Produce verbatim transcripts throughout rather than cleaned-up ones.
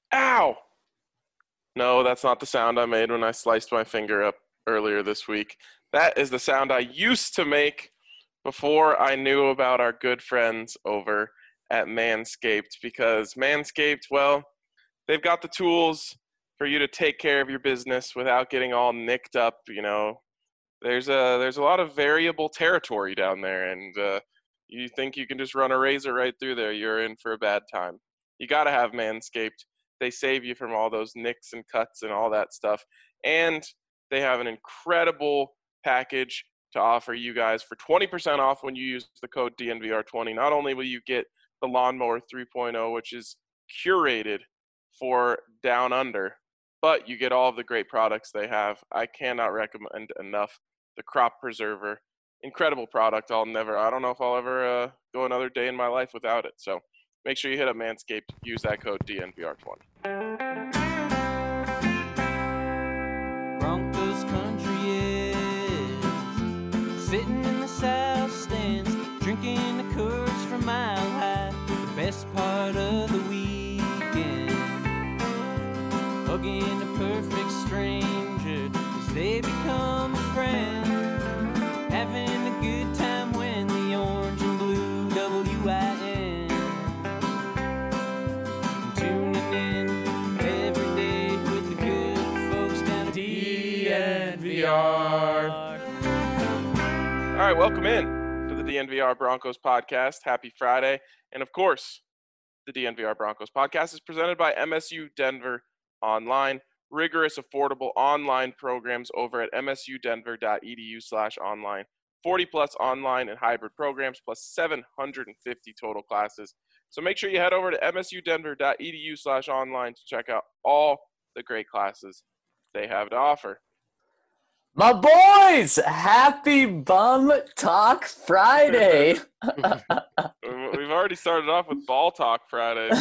Ow! No, that's not the sound I made when I sliced my finger up earlier this week. That is the sound I used to make before I knew about our good friends over at Manscaped, because Manscaped, well, they've got the tools for you to take care of your business without getting all nicked up. You know, there's a there's a lot of variable territory down there, and uh, you think you can just run a razor right through there, you're in for a bad time. You got to have Manscaped. They save you from all those nicks and cuts and all that stuff, and they have an incredible package to offer you guys for twenty percent off when you use the code D N V R twenty. Not only will you get the Lawnmower three point oh, which is curated for down under, but you get all of the great products they have. I cannot recommend enough the Crop Preserver. Incredible product. I'll never, I don't know if I'll ever uh, go another day in my life without it. So make sure you hit up Manscaped. Use that code D N V R twenty. Broncos country is sitting in the south stands, drinking the Coors from Mile High. The best part of the weekend, hugging a perfect stranger as they become a friend, having a good time when the orange and blue W I N, tuning in every day with the good folks down at D N V R. All right, welcome in to the D N V R Broncos podcast. Happy Friday. And of course, the D N V R Broncos podcast is presented by M S U Denver Online. Rigorous, affordable online programs over at msudenver.edu slash online. forty plus online and hybrid programs plus seven hundred fifty total classes. So make sure you head over to msudenver.edu slash online to check out all the great classes they have to offer. My boys, happy Bum Talk Friday. We've already started off with Ball Talk Friday.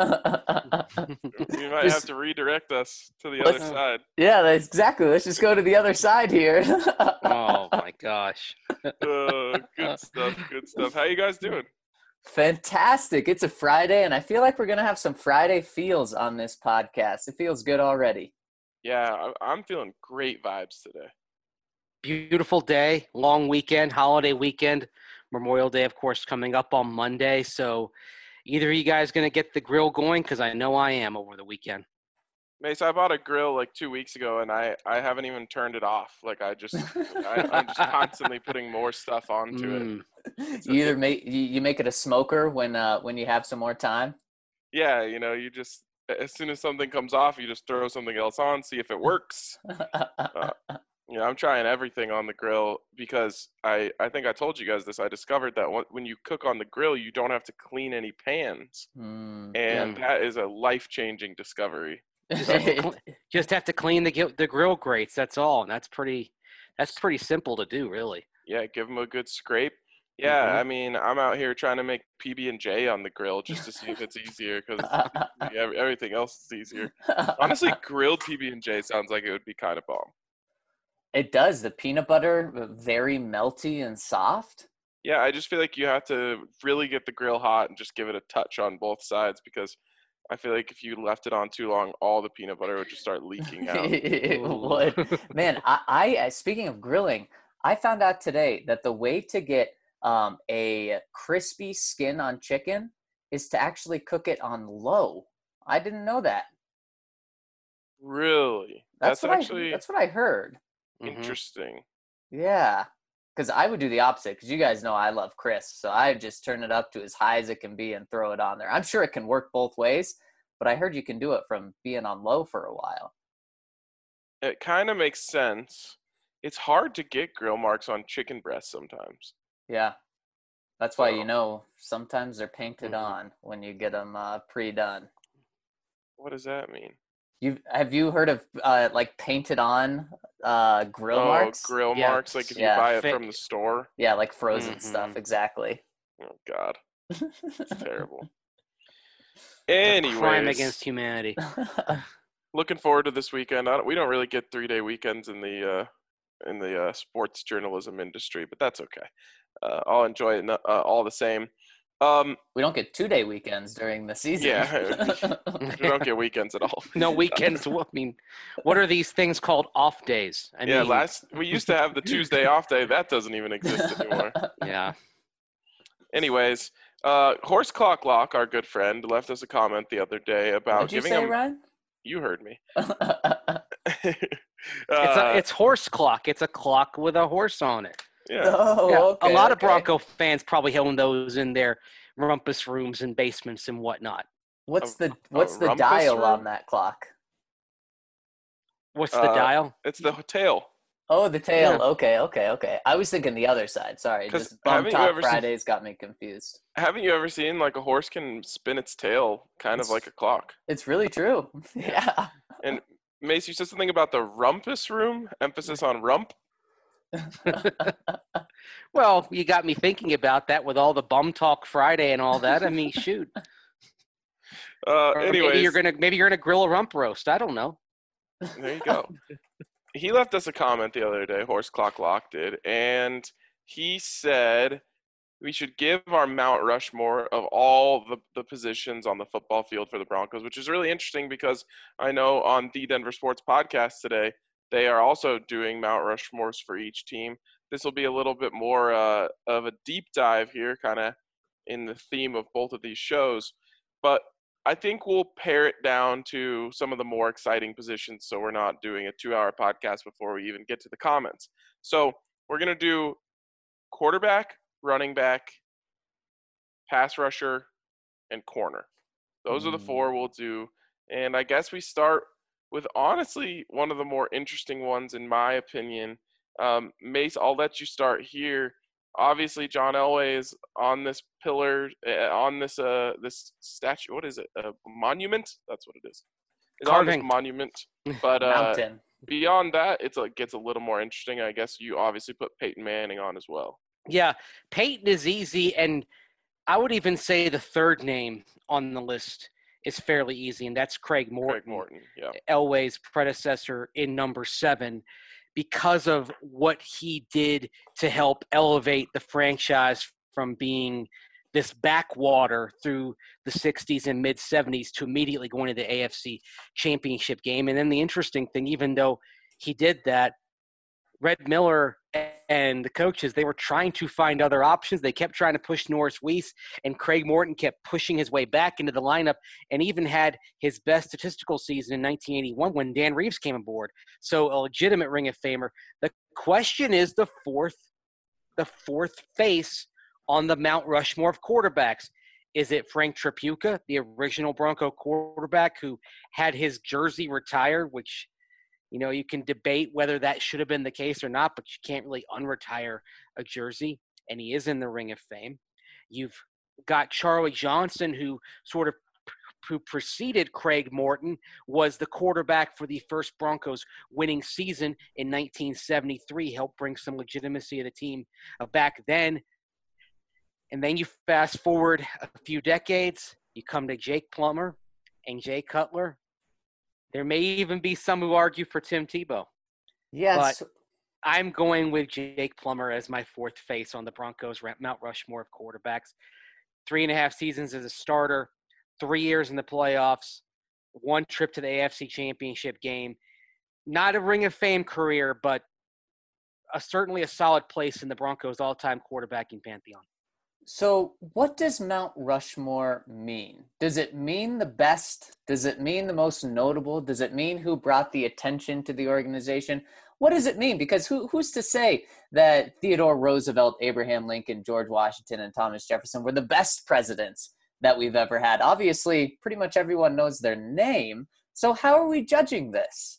So you might have to redirect us to the other side. Yeah, that's exactly. Let's just go to the other side here. Oh, my gosh. Uh, good stuff, good stuff. How you guys doing? Fantastic. It's a Friday, and I feel like we're going to have some Friday feels on this podcast. It feels good already. Yeah, I'm feeling great vibes today. Beautiful day, long weekend, holiday weekend. Memorial Day, of course, coming up on Monday. So either of you guys going to get the grill going? Because I know I am over the weekend. Mace, I bought a grill like two weeks ago, and I, I haven't even turned it off. Like, I just, I, I'm just constantly putting more stuff onto Mm. it. You either make you, you make it a smoker when uh when you have some more time. Yeah, you know, you just, as soon as something comes off, you just throw something else on, see if it works. Uh, you know, I'm trying everything on the grill because I, I think I told you guys this. I discovered that when you cook on the grill, you don't have to clean any pans. Mm. And that is a life-changing discovery. Just have to, cl- just have to clean the gi- the grill grates. That's all, and that's pretty that's pretty simple to do, really. Yeah, give them a good scrape. Yeah, Mhm. I mean, I'm out here trying to make P B and J on the grill just to see if it's easier because everything else is easier. Honestly, grilled P B and J sounds like it would be kind of bomb. It does. The peanut butter, very melty and soft. Yeah, I just feel like you have to really get the grill hot and just give it a touch on both sides because I feel like if you left it on too long, all the peanut butter would just start leaking out. It would. Man, I, I speaking of grilling, I found out today that the way to get um, a crispy skin on chicken is to actually cook it on low. I didn't know that. Really? That's, That's what actually I, that's what I heard. Mhm. interesting. Yeah, because I would do the opposite. Because you guys know I love crisp, so I just turn it up to as high as it can be and throw it on there. I'm sure it can work both ways, but I heard you can do it from being on low for a while. It kind of makes sense. It's hard to get grill marks on chicken breasts sometimes. Yeah, that's why So- you know sometimes they're painted Mhm. on when you get them uh, pre-done. What does that mean? You have you heard of uh, like painted on uh, grill oh, marks? grill Yeah, marks, like if yeah, you buy it fa- from the store. Yeah, like frozen Mhm. stuff. Exactly. Oh God, it's terrible. It's a crime Anyways, against humanity. looking forward to this weekend. I don't, we don't really get three-day weekends in the uh, in the uh, sports journalism industry, but that's okay. Uh, I'll enjoy it uh, all the same. Um, We don't get two-day weekends during the season. Yeah. we don't get weekends at all. No weekends. I mean, what are these things called off days? I yeah, mean, last we used to have the Tuesday off day. That doesn't even exist anymore. yeah. Anyways, uh, Horse Clock Lock, our good friend, left us a comment the other day about What'd you giving say, him. Ryan? You heard me. It's a Uh, it's horse clock. It's a clock with a horse on it. yeah. Oh, Yeah, okay, a lot of okay. Bronco fans probably own those in their rumpus rooms and basements and whatnot. What's A- the what's the rumpus dial room? on that clock? What's the Uh, dial? It's the tail. Oh, the tail. Yeah. Okay, okay, okay. I was thinking the other side. Sorry, 'Cause just Bum haven't you Talk ever seen- Fridays got me confused. Haven't you ever seen like a horse can spin its tail kind of It's- like a clock? It's really true. Yeah. And Mace, you said something about the rumpus room, emphasis on rump. Well, you got me thinking about that with all the Bum Talk Friday and all that. I mean, shoot. Uh, Or anyways, maybe you're gonna maybe you're gonna grill a rump roast. I don't know. there you go. He left us a comment the other day, Horse Clock Lock did, and he said we should give our Mount Rushmore of all the, the positions on the football field for the Broncos, which is really interesting because I know on the Denver Sports Podcast today, they are also doing Mount Rushmores for each team. This will be a little bit more uh, of a deep dive here, kind of in the theme of both of these shows. But I think we'll pare it down to some of the more exciting positions so we're not doing a two-hour podcast before we even get to the comments. So we're going to do quarterback, running back, pass rusher, and corner. Those are the four we'll do. And I guess we start with, honestly, one of the more interesting ones, in my opinion. Um, Mace, I'll let you start here. Obviously, John Elway is on this pillar, uh, on this uh, this statue. What is it? A monument? That's what it is. It's on Carving. this monument. But uh, Mountain. beyond that, it's a, gets a little more interesting. I guess you obviously put Peyton Manning on as well. Yeah, Peyton is easy, and I would even say the third name on the list is fairly easy, and that's Craig Morton, Craig Morton, yeah. Elway's predecessor in number seven, because of what he did to help elevate the franchise from being this backwater through the sixties and mid-seventies to immediately going to the A F C Championship game. And then the interesting thing, even though he did that, Red Miller and the coaches, they were trying to find other options. They kept trying to push Norris Weiss, and Craig Morton kept pushing his way back into the lineup and even had his best statistical season in nineteen eighty-one when Dan Reeves came aboard. So a legitimate Ring of Famer. The question is the fourth, the fourth face on the Mount Rushmore of quarterbacks. Is it Frank Tripucka, the original Bronco quarterback who had his jersey retired, which – you know, you can debate whether that should have been the case or not, but you can't really unretire a jersey, and he is in the Ring of Fame. You've got Charlie Johnson, who sort of who preceded Craig Morton, was the quarterback for the first Broncos winning season in nineteen seventy-three, helped bring some legitimacy to the team back then. And then you fast forward a few decades, you come to Jake Plummer and Jay Cutler. There may even be some who argue for Tim Tebow. Yes. But I'm going with Jake Plummer as my fourth face on the Broncos Mount Rushmore of quarterbacks. Three and a half seasons as a starter, three years in the playoffs, one trip to the A F C Championship game. Not a Ring of Fame career, but a, certainly a solid place in the Broncos' all-time quarterbacking pantheon. So what does Mount Rushmore mean? Does it mean the best? Does it mean the most notable? Does it mean who brought the attention to the organization? What does it mean? Because who, who's to say that Theodore Roosevelt, Abraham Lincoln, George Washington, and Thomas Jefferson were the best presidents that we've ever had? Obviously, pretty much everyone knows their name. So how are we judging this?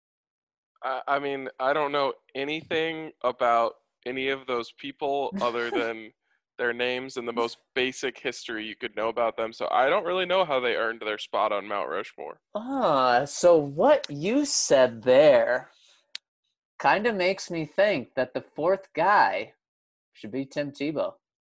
I, I mean, I don't know anything about any of those people other than their names and the most basic history you could know about them. So I don't really know how they earned their spot on Mount Rushmore. Ah, so what you said there kind of makes me think that the fourth guy should be Tim Tebow.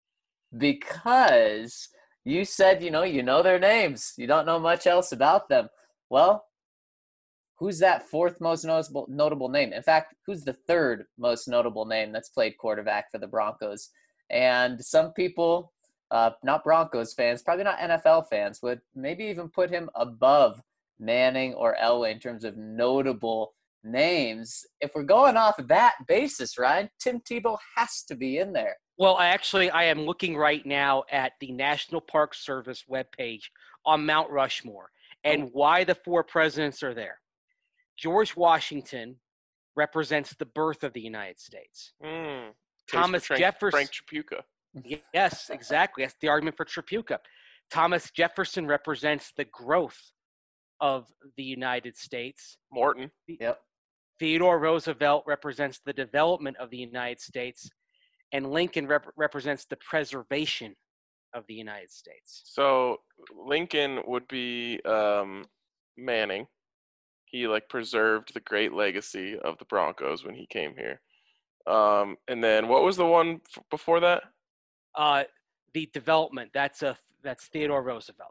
Because you said, you know, you know their names. You don't know much else about them. Well, who's that fourth most notable, notable name? In fact, who's the third most notable name that's played quarterback for the Broncos? And some people uh, not Broncos fans, probably not N F L fans, would maybe even put him above Manning or Elway in terms of notable names. If we're going off of that basis, Ryan, Tim Tebow has to be in there. Well, I actually, I am looking right now at the National Park Service webpage on Mount Rushmore and why the four presidents are there. George Washington represents the birth of the United States. Mm. Thomas Frank, Jefferson. Frank Tripucka. Yes, exactly. That's the argument for Tripucka. Thomas Jefferson represents the growth of the United States. Morton. Yep. Theodore Roosevelt represents the development of the United States, and Lincoln rep- represents the preservation of the United States. So Lincoln would be um, Manning. He like preserved the great legacy of the Broncos when he came here. Um, and then what was the one f- before that? Uh, the development, that's a that's Theodore Roosevelt.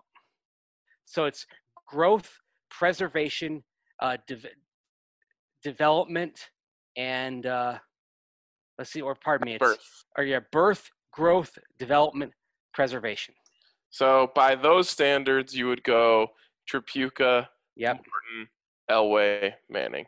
So it's growth, preservation, uh, de- development, and uh, let's see, or pardon me, it's Birth. or yeah, birth, growth, development, preservation. So by those standards, you would go Tripucka, Yep. Morton, Elway, Manning.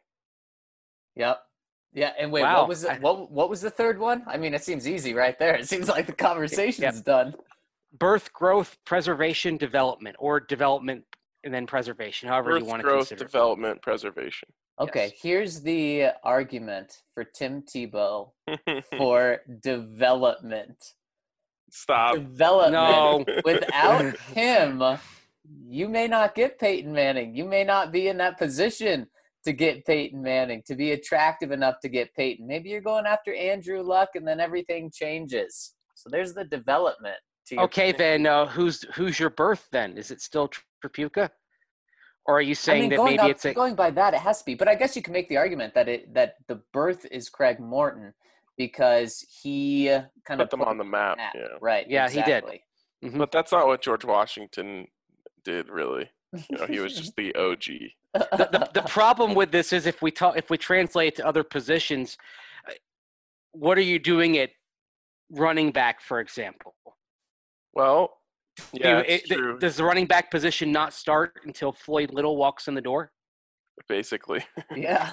Yep. Yeah, and wait, Wow. what was the, what what was the third one? I mean, it seems easy right there. It seems like the conversation's Yep. done. Birth, growth, preservation, development, or development and then preservation, however Birth, you want to growth, consider it. development, preservation. Okay, Yes. here's the argument for Tim Tebow for development. Stop. Development. No. Without him, you may not get Peyton Manning. You may not be in that position to get Peyton Manning, to be attractive enough to get Peyton. Maybe you're going after Andrew Luck and then everything changes. So there's the development. To your Okay, point. then uh, who's who's your birth then? Is it still Tripucka? Or are you I saying mean, that going, maybe up, it's a going by that, it has to be. But I guess you can make the argument that it that the birth is Craig Morton because he kind of Put them on the map. map. Yeah. Right. Yeah, he did. exactly. Mhm. But that's not what George Washington did, really. You know, he was just the O G. the, the, the problem with this is if we talk if we translate to other positions, uh, what are you doing at running back, for example? Well, Do yeah, you- it's it- true. Does the running back position not start until Floyd Little walks in the door? Basically. Yeah.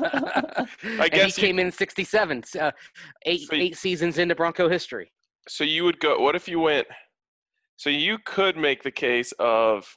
I and guess he you- came in sixty-seven, uh, eight So you- eight seasons into Bronco history. So you would go, what if you went, so you could make the case of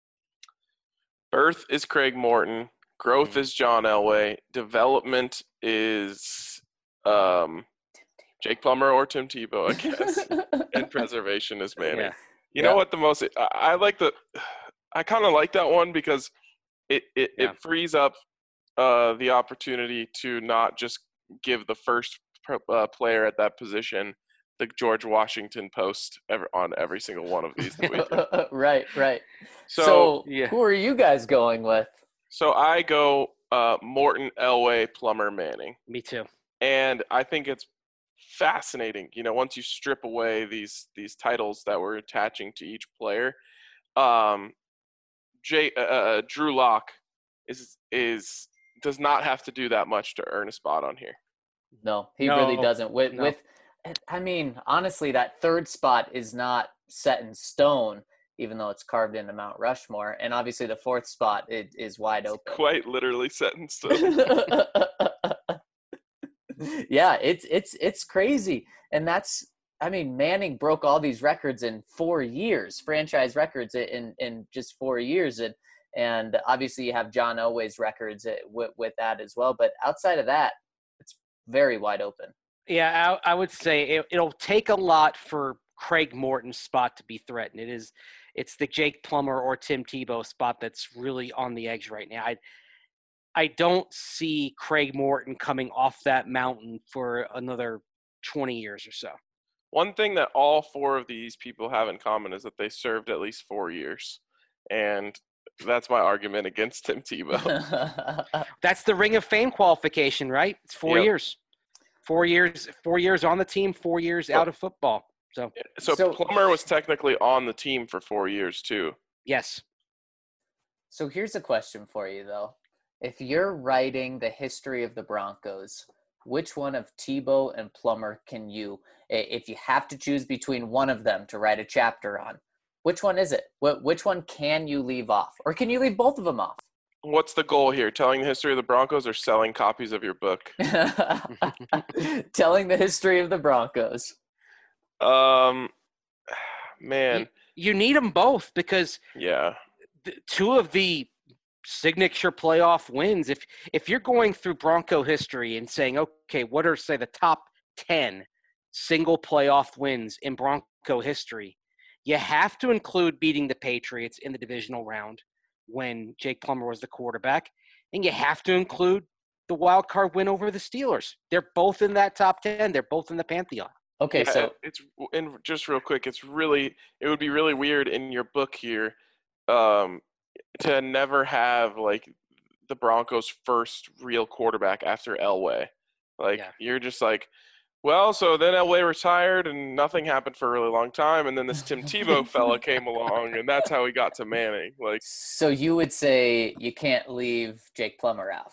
birth is Craig Morton, growth Mhm. is John Elway, development is um, Jake Plummer or Tim Tebow, I guess, and preservation is Manning. Yeah. You Yeah. know what the most, I, I like the, I kind of like that one because it, it, Yeah. it frees up uh, the opportunity to not just give the first pro- uh, player at that position the George Washington post ever, on every single one of these that we do. right, right. So, So, yeah. who are you guys going with? so I go uh, Morton, Elway, Plummer, Manning. Me too. And I think it's fascinating, you know, once you strip away these these titles that we're attaching to each player. Um, Jay, uh, uh, Drew Lock is is does not have to do that much to earn a spot on here. No, he No, really doesn't. With no. with, I mean, honestly, that third spot is not set in stone, even though it's carved into Mount Rushmore. And obviously, the fourth spot is, is wide open. Quite literally set in stone. Yeah, it's it's it's crazy, and that's. I mean, Manning broke all these records in four years, franchise records in in just four years, and and obviously you have John Elway's records with with that as well. But outside of that, it's very wide open. Yeah, I, I would say it, it'll take a lot for Craig Morton's spot to be threatened. It is, it's the Jake Plummer or Tim Tebow spot that's really on the edge right now. I, I don't see Craig Morton coming off that mountain for another twenty years or so. One thing that all four of these people have in common is that they served at least four years. And that's my argument against Tim Tebow. That's the Ring of Fame qualification, right? It's four Yep. years. Four years, four years on the team, four years out of football. So, So, So- Plummer was technically on the team for four years too. yes. So here's a question for you, though. If you're writing the history of the Broncos, which one of Tebow and Plummer can you, if you have to choose between one of them to write a chapter on, which one is it? What which one can you leave off, or can you leave both of them off? What's the goal here? Telling the history of the Broncos or selling copies of your book? Telling the history of the Broncos. Um, man. You, you need them both because Yeah. th- two of the signature playoff wins, if if you're going through Bronco history and saying, okay, what are, say, the top ten single playoff wins in Bronco history, you have to include beating the Patriots in the divisional round when Jake Plummer was the quarterback, and you have to include the wild card win over the Steelers. They're both in that top ten. They're both in the Pantheon. Okay, Yeah, so it's and just real quick, it's really it would be really weird in your book here, um, to never have like the Broncos' first real quarterback after Elway. Like Yeah. you're just like, well, so then Elway retired and nothing happened for a really long time, and then this Tim Tebow fella came along, and that's how he got to Manning. Like, so you would say you can't leave Jake Plummer out.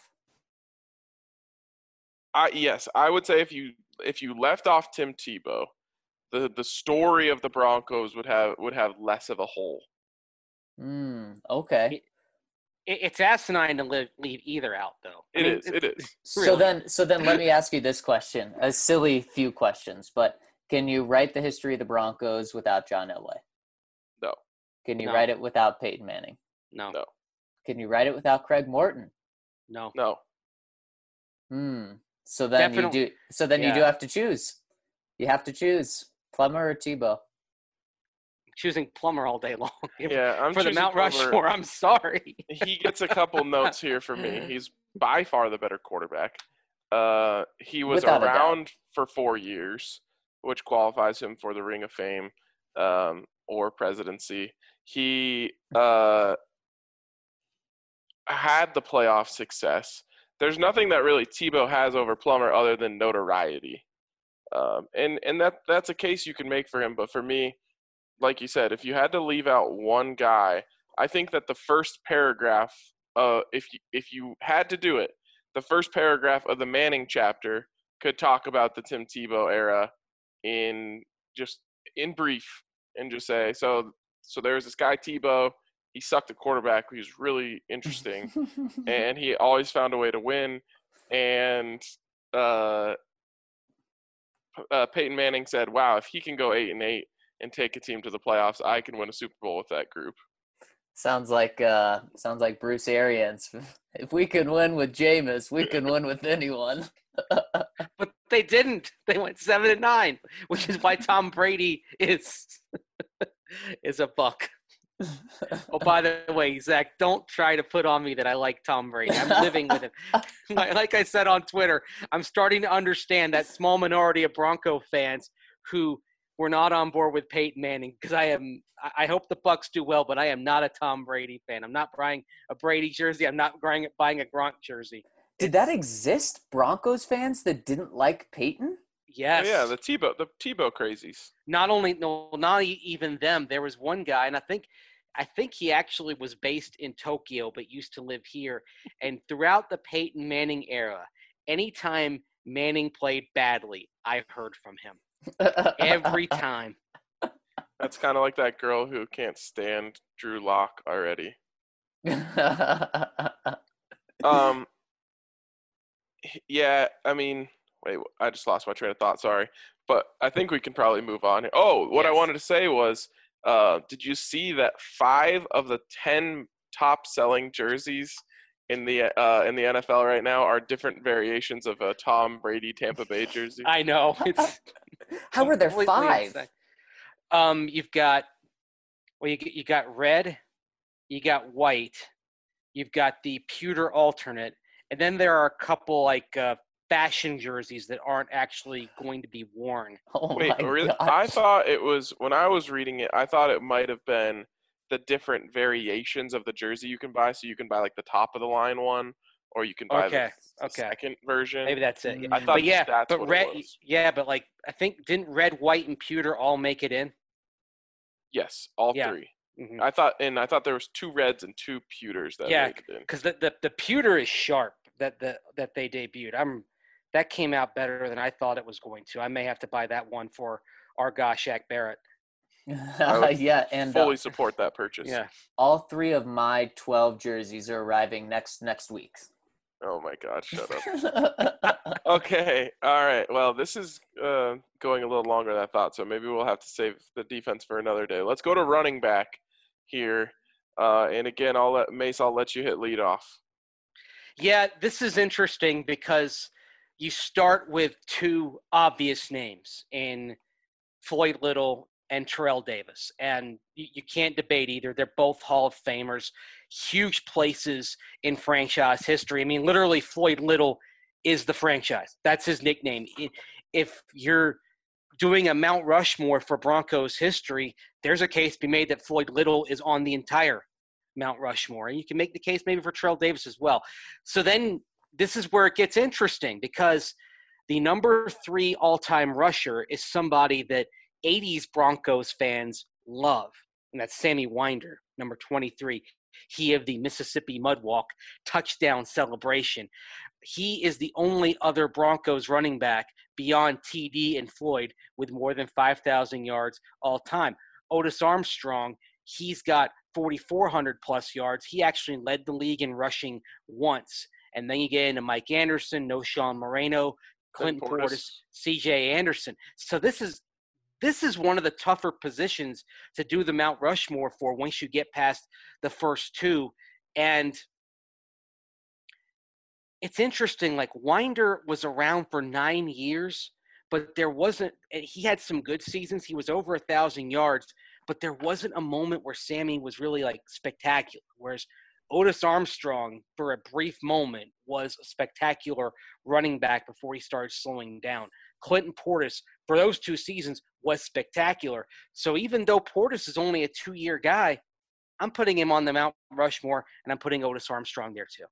I yes, I would say if you if you left off Tim Tebow, the the story of the Broncos would have would have less of a hole. Hmm. Okay. It, it's asinine to live, leave either out, though. I It mean, is. It is. So Really? then, so then, let me ask you this question: a silly few questions, but can you write the history of the Broncos without John Elway? No. Can you No. write it without Peyton Manning? No, No. Can you write it without Craig Morton? no. No. Hmm. So then Definitely- you do. So then you do yeah. have to choose. You have to choose Plummer or Tebow. Choosing Plummer all day long. Yeah, I'm For the choosing Mount Plummer. Rushmore, I'm sorry. He gets a couple notes here for me. He's by far the better quarterback. Uh, he was Without a doubt. around for four years, which qualifies him for the Ring of Fame um, or presidency. He uh, had the playoff success. There's nothing that really Tebow has over Plummer other than notoriety. Um, and and that that's a case you can make for him. But for me, like you said, if you had to leave out one guy, I think that the first paragraph, uh, if you, if you had to do it, the first paragraph of the Manning chapter could talk about the Tim Tebow era in just in brief and just say, so so there was this guy Tebow. He sucked at quarterback. He was really interesting, and he always found a way to win. And uh, uh, Peyton Manning said, "Wow, if he can go eight and eight and take a team to the playoffs, I can win a Super Bowl with that group." Sounds like uh, sounds like Bruce Arians. If we can win with Jameis, we can win with anyone. But they didn't. They went seven and nine, which is why Tom Brady is is a buck. Oh, by the way, Zach, don't try to put on me that I like Tom Brady. I'm living with him. Like like I said on Twitter, I'm starting to understand that small minority of Bronco fans who were not on board with Peyton Manning, because I am. I hope the Bucs do well, but I am not a Tom Brady fan. I'm not buying a Brady jersey. I'm not buying buying a Gronk jersey. Did that exist? Broncos fans that didn't like Peyton? Yes. Oh, yeah, the Tebow, the Tebow crazies. Not only no, not e- even them. There was one guy, and I think, I think he actually was based in Tokyo, but used to live here. And throughout the Peyton Manning era, anytime Manning played badly, I heard from him every time. That's kind of like that girl who can't stand Drew Lock already. Um, yeah, I mean, wait, I just lost my train of thought. Sorry, but I think we can probably move on. Oh, what I Yes. wanted to say was, uh, did you see that five of the ten top-selling jerseys in the uh, in the N F L right now are different variations of a Tom Brady Tampa Bay jersey? I know. It's How were there completely five? insane. Um, you've got, well, you you got red, you got white, you've got the pewter alternate, and then there are a couple like uh, fashion jerseys that aren't actually going to be worn. Oh Wait, my really? gosh. I thought it was when I was reading it. I thought it might have been the different variations of the jersey you can buy. So you can buy like the top of the line one, or you can buy Okay, the, the okay. second version. Maybe that's it. I Mm. thought But yeah, that's but what red, it was. yeah, but like I think didn't red, white, and pewter all make it in? Yes, all Yeah. three. Mm-hmm. I thought, and I thought there was two reds and two pewters that Yeah, made it in. Because the, the the pewter is sharp that the that they debuted. I'm that came out better than I thought it was going to. I may have to buy that one for our guy Shaq Barrett. I would yeah, and fully uh, support that purchase. Yeah. all three of my twelve jerseys are arriving next next week. Oh my God, shut up. Okay, all right. Well, this is uh, going a little longer than I thought, so maybe we'll have to save the defense for another day. Let's go to running back here. Uh, and again, I'll let Mace, I'll let you hit lead off. Yeah, this is interesting because you start with two obvious names in Floyd Little and Terrell Davis, and you, you can't debate either. They're both Hall of Famers, huge places in franchise history. I mean, literally, Floyd Little is the franchise. That's his nickname. If you're doing a Mount Rushmore for Broncos history, there's a case to be made that Floyd Little is on the entire Mount Rushmore. And you can make the case maybe for Terrell Davis as well. So then this is where it gets interesting because the number three all-time rusher is somebody that eighties Broncos fans love, and that's Sammy Winder, number twenty-three. He of the Mississippi Mudwalk touchdown celebration. He is the only other Broncos running back beyond T D and Floyd with more than five thousand yards all time. Otis Armstrong, he's got forty-four hundred plus yards. He actually led the league in rushing once. And then you get into Mike Anderson, Noshawn Moreno, Clinton Portis, Portis C J Anderson. So this is this is one of the tougher positions to do the Mount Rushmore for once you get past the first two. And it's interesting, like Winder was around for nine years, but there wasn't – he had some good seasons. He was over one thousand yards, but there wasn't a moment where Sammy was really, like, spectacular, whereas Otis Armstrong, for a brief moment, was a spectacular running back before he started slowing down. Clinton Portis, for those two seasons, was spectacular. So even though Portis is only a two-year guy, I'm putting him on the Mount Rushmore, and I'm putting Otis Armstrong there too.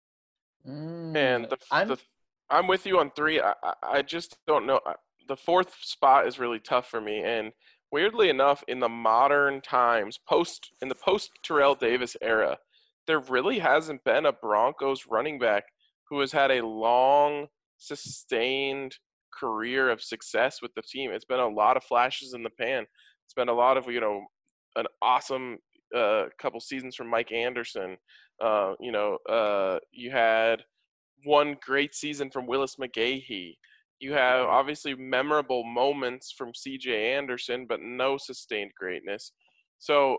Mm, And the, I'm the I'm with you on three. I, I I just don't know. The fourth spot is really tough for me. And weirdly enough, in the modern times, post in the post Terrell Davis era, there really hasn't been a Broncos running back who has had a long, sustained career of success with the team. It's been a lot of flashes in the pan. It's been a lot of, you know, an awesome uh, couple seasons from Mike Anderson. Uh, you know, uh, you had one great season from Willis McGahee. You have obviously memorable moments from C J Anderson, but no sustained greatness. So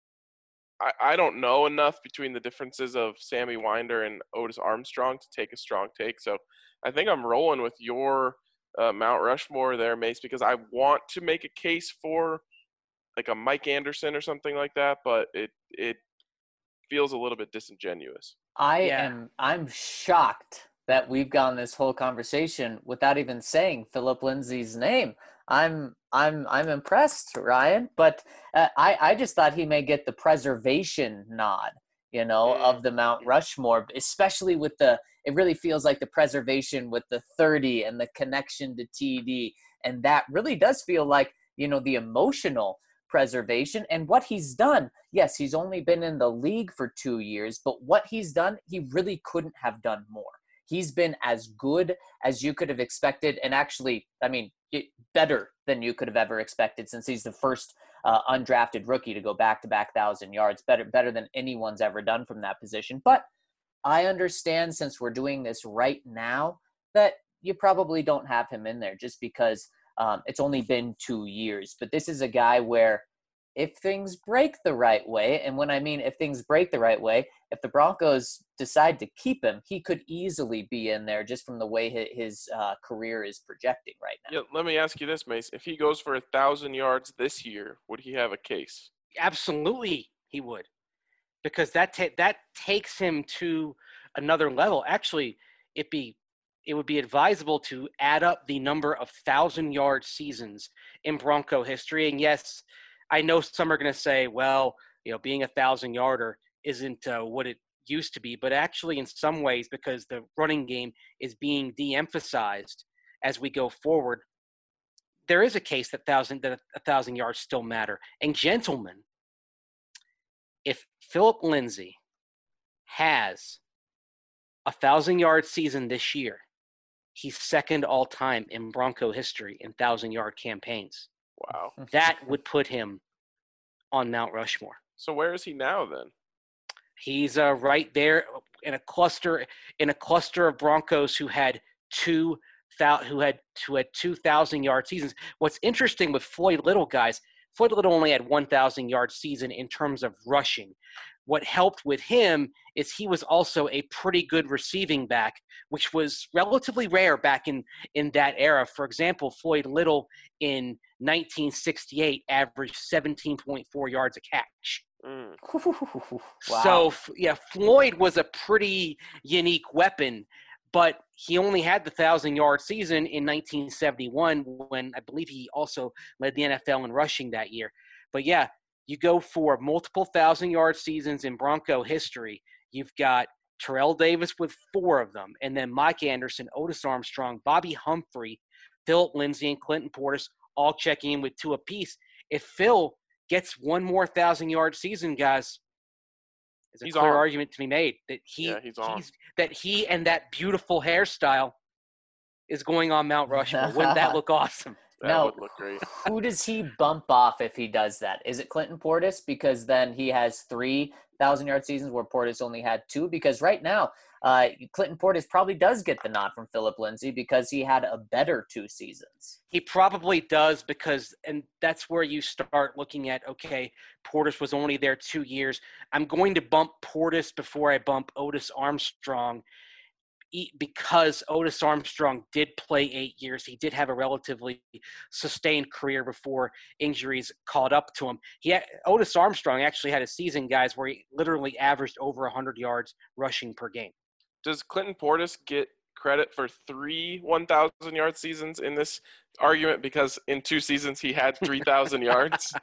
I, I don't know enough between the differences of Sammy Winder and Otis Armstrong to take a strong take. So I think I'm rolling with your uh, Mount Rushmore there, Mace, because I want to make a case for like a Mike Anderson or something like that, but it it feels a little bit disingenuous. I Yeah. am I'm shocked that we've gone this whole conversation without even saying Philip Lindsay's name. I'm I'm I'm impressed, Ryan, but uh, I I just thought he may get the preservation nod, you know, Mm. of the Mount Rushmore, especially with the it really feels like the preservation with the thirty and the connection to T D, and that really does feel like, you know, the emotional preservation and what he's done. Yes, he's only been in the league for two years, but what he's done, he really couldn't have done more. He's been as good as you could have expected, and actually, I mean, it, better than you could have ever expected since he's the first uh, undrafted rookie to go back-to-back thousand yards. Better, better than anyone's ever done from that position. But I understand, since we're doing this right now, that you probably don't have him in there just because um, it's only been two years. But this is a guy where if things break the right way, and when I mean if things break the right way, if the Broncos decide to keep him, he could easily be in there just from the way his uh, career is projecting right now. Yeah, let me ask you this, Mace. If he goes for a thousand yards this year, would he have a case? Absolutely, he would, because that ta- that takes him to another level. Actually, it be it would be advisable to add up the number of thousand-yard seasons in Bronco history. And yes, I know some are going to say, well, you know, being a thousand-yarder isn't uh, what it used to be, but actually in some ways, because the running game is being de-emphasized as we go forward, there is a case that thousand that a thousand yards still matter. And gentlemen, if Philip Lindsay has a thousand-yard season this year, he's second all time in Bronco history in thousand-yard campaigns. Wow. That would put him on Mount Rushmore. So where is he now then? He's uh, right there in a cluster in a cluster of Broncos who had two who had who had two thousand yard seasons. What's interesting with Floyd Little, guys, Floyd Little only had one thousand yard season in terms of rushing. What helped with him is he was also a pretty good receiving back, which was relatively rare back in, in that era. For example, Floyd Little in nineteen sixty-eight averaged seventeen point four yards a catch. Mm. Wow. So, yeah, Floyd was a pretty unique weapon, but he only had the one thousand-yard season in nineteen seventy-one when I believe he also led the N F L in rushing that year. But, yeah, you go for multiple thousand-yard seasons in Bronco history. You've got Terrell Davis with four of them, and then Mike Anderson, Otis Armstrong, Bobby Humphrey, Philip Lindsay, and Clinton Portis all checking in with two apiece. If Phil gets one more thousand-yard season, guys, there's a He's clear on. argument to be made that he Yeah, he's on. he's, that he and that beautiful hairstyle is going on Mount Rushmore. Wouldn't that look awesome? That Now, would look great. who does he bump off if he does that? Is it Clinton Portis? Because then he has three thousand-yard seasons where Portis only had two. Because right now, uh, Clinton Portis probably does get the nod from Philip Lindsay because he had a better two seasons. He probably does because – and that's where you start looking at, okay, Portis was only there two years. I'm going to bump Portis before I bump Otis Armstrong because Otis Armstrong did play eight years. He did have a relatively sustained career before injuries caught up to him. He had, Otis Armstrong actually had a season, guys, where he literally averaged over one hundred yards rushing per game. Does Clinton Portis get credit for three one thousand-yard seasons in this argument because in two seasons he had three thousand yards?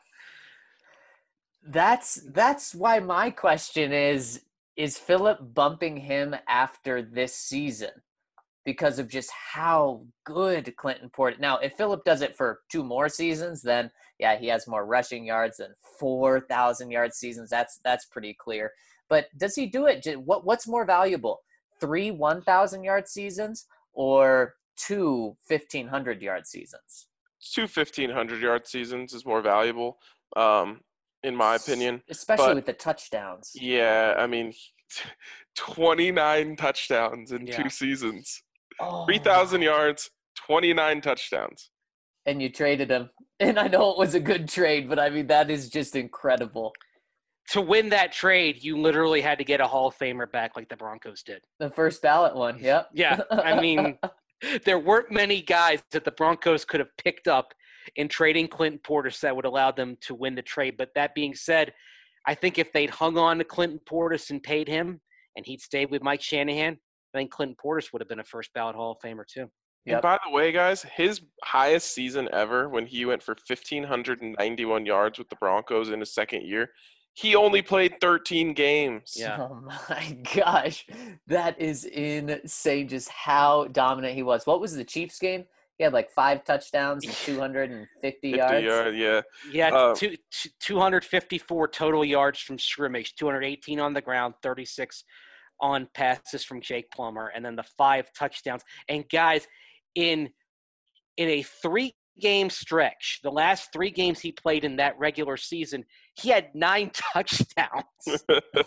That's that's why my question is, is Philip bumping him after this season because of just how good Clinton Portis – now, if Philip does it for two more seasons, then, yeah, he has more rushing yards than four thousand-yard seasons. That's that's pretty clear. But does he do it – what what's more valuable, three one thousand-yard seasons or two fifteen hundred-yard seasons? Two fifteen hundred-yard seasons is more valuable, um, in my opinion. Especially But- with the touchdowns. Yeah, I mean, twenty-nine touchdowns in Yeah. two seasons. Oh, three thousand yards, twenty-nine touchdowns. and you traded him. And I know it was a good trade, but I mean, that is just incredible. To win that trade, you literally had to get a Hall of Famer back like the Broncos did. The first ballot one, yep. Yeah, I mean, there weren't many guys that the Broncos could have picked up in trading Clinton Portis that would allow them to win the trade. But that being said, I think if they'd hung on to Clinton Portis and paid him and he'd stayed with Mike Shanahan, I think Clinton Portis would have been a first ballot Hall of Famer too. And Yep. by the way, guys, his highest season ever when he went for one thousand five hundred ninety-one yards with the Broncos in his second year, he only played thirteen games. Yeah. Oh my gosh. That is insane just how dominant he was. What was the Chiefs game? He had like five touchdowns and two hundred fifty fifty yards. yard, yeah. Yeah, Uh, two, two, two hundred fifty-four total yards from scrimmage, two hundred eighteen on the ground, thirty-six on passes from Jake Plummer, and then the five touchdowns. And guys, in in a three-game stretch, the last three games he played in that regular season, he had nine touchdowns.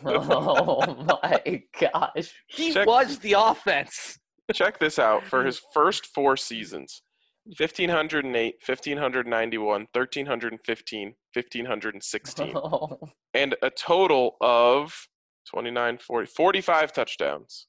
Oh my gosh. He Check- was the offense. Check this out. For his first four seasons, fifteen oh eight, fifteen ninety-one, thirteen fifteen, fifteen sixteen, Oh, and a total of twenty-nine, forty, forty-five touchdowns.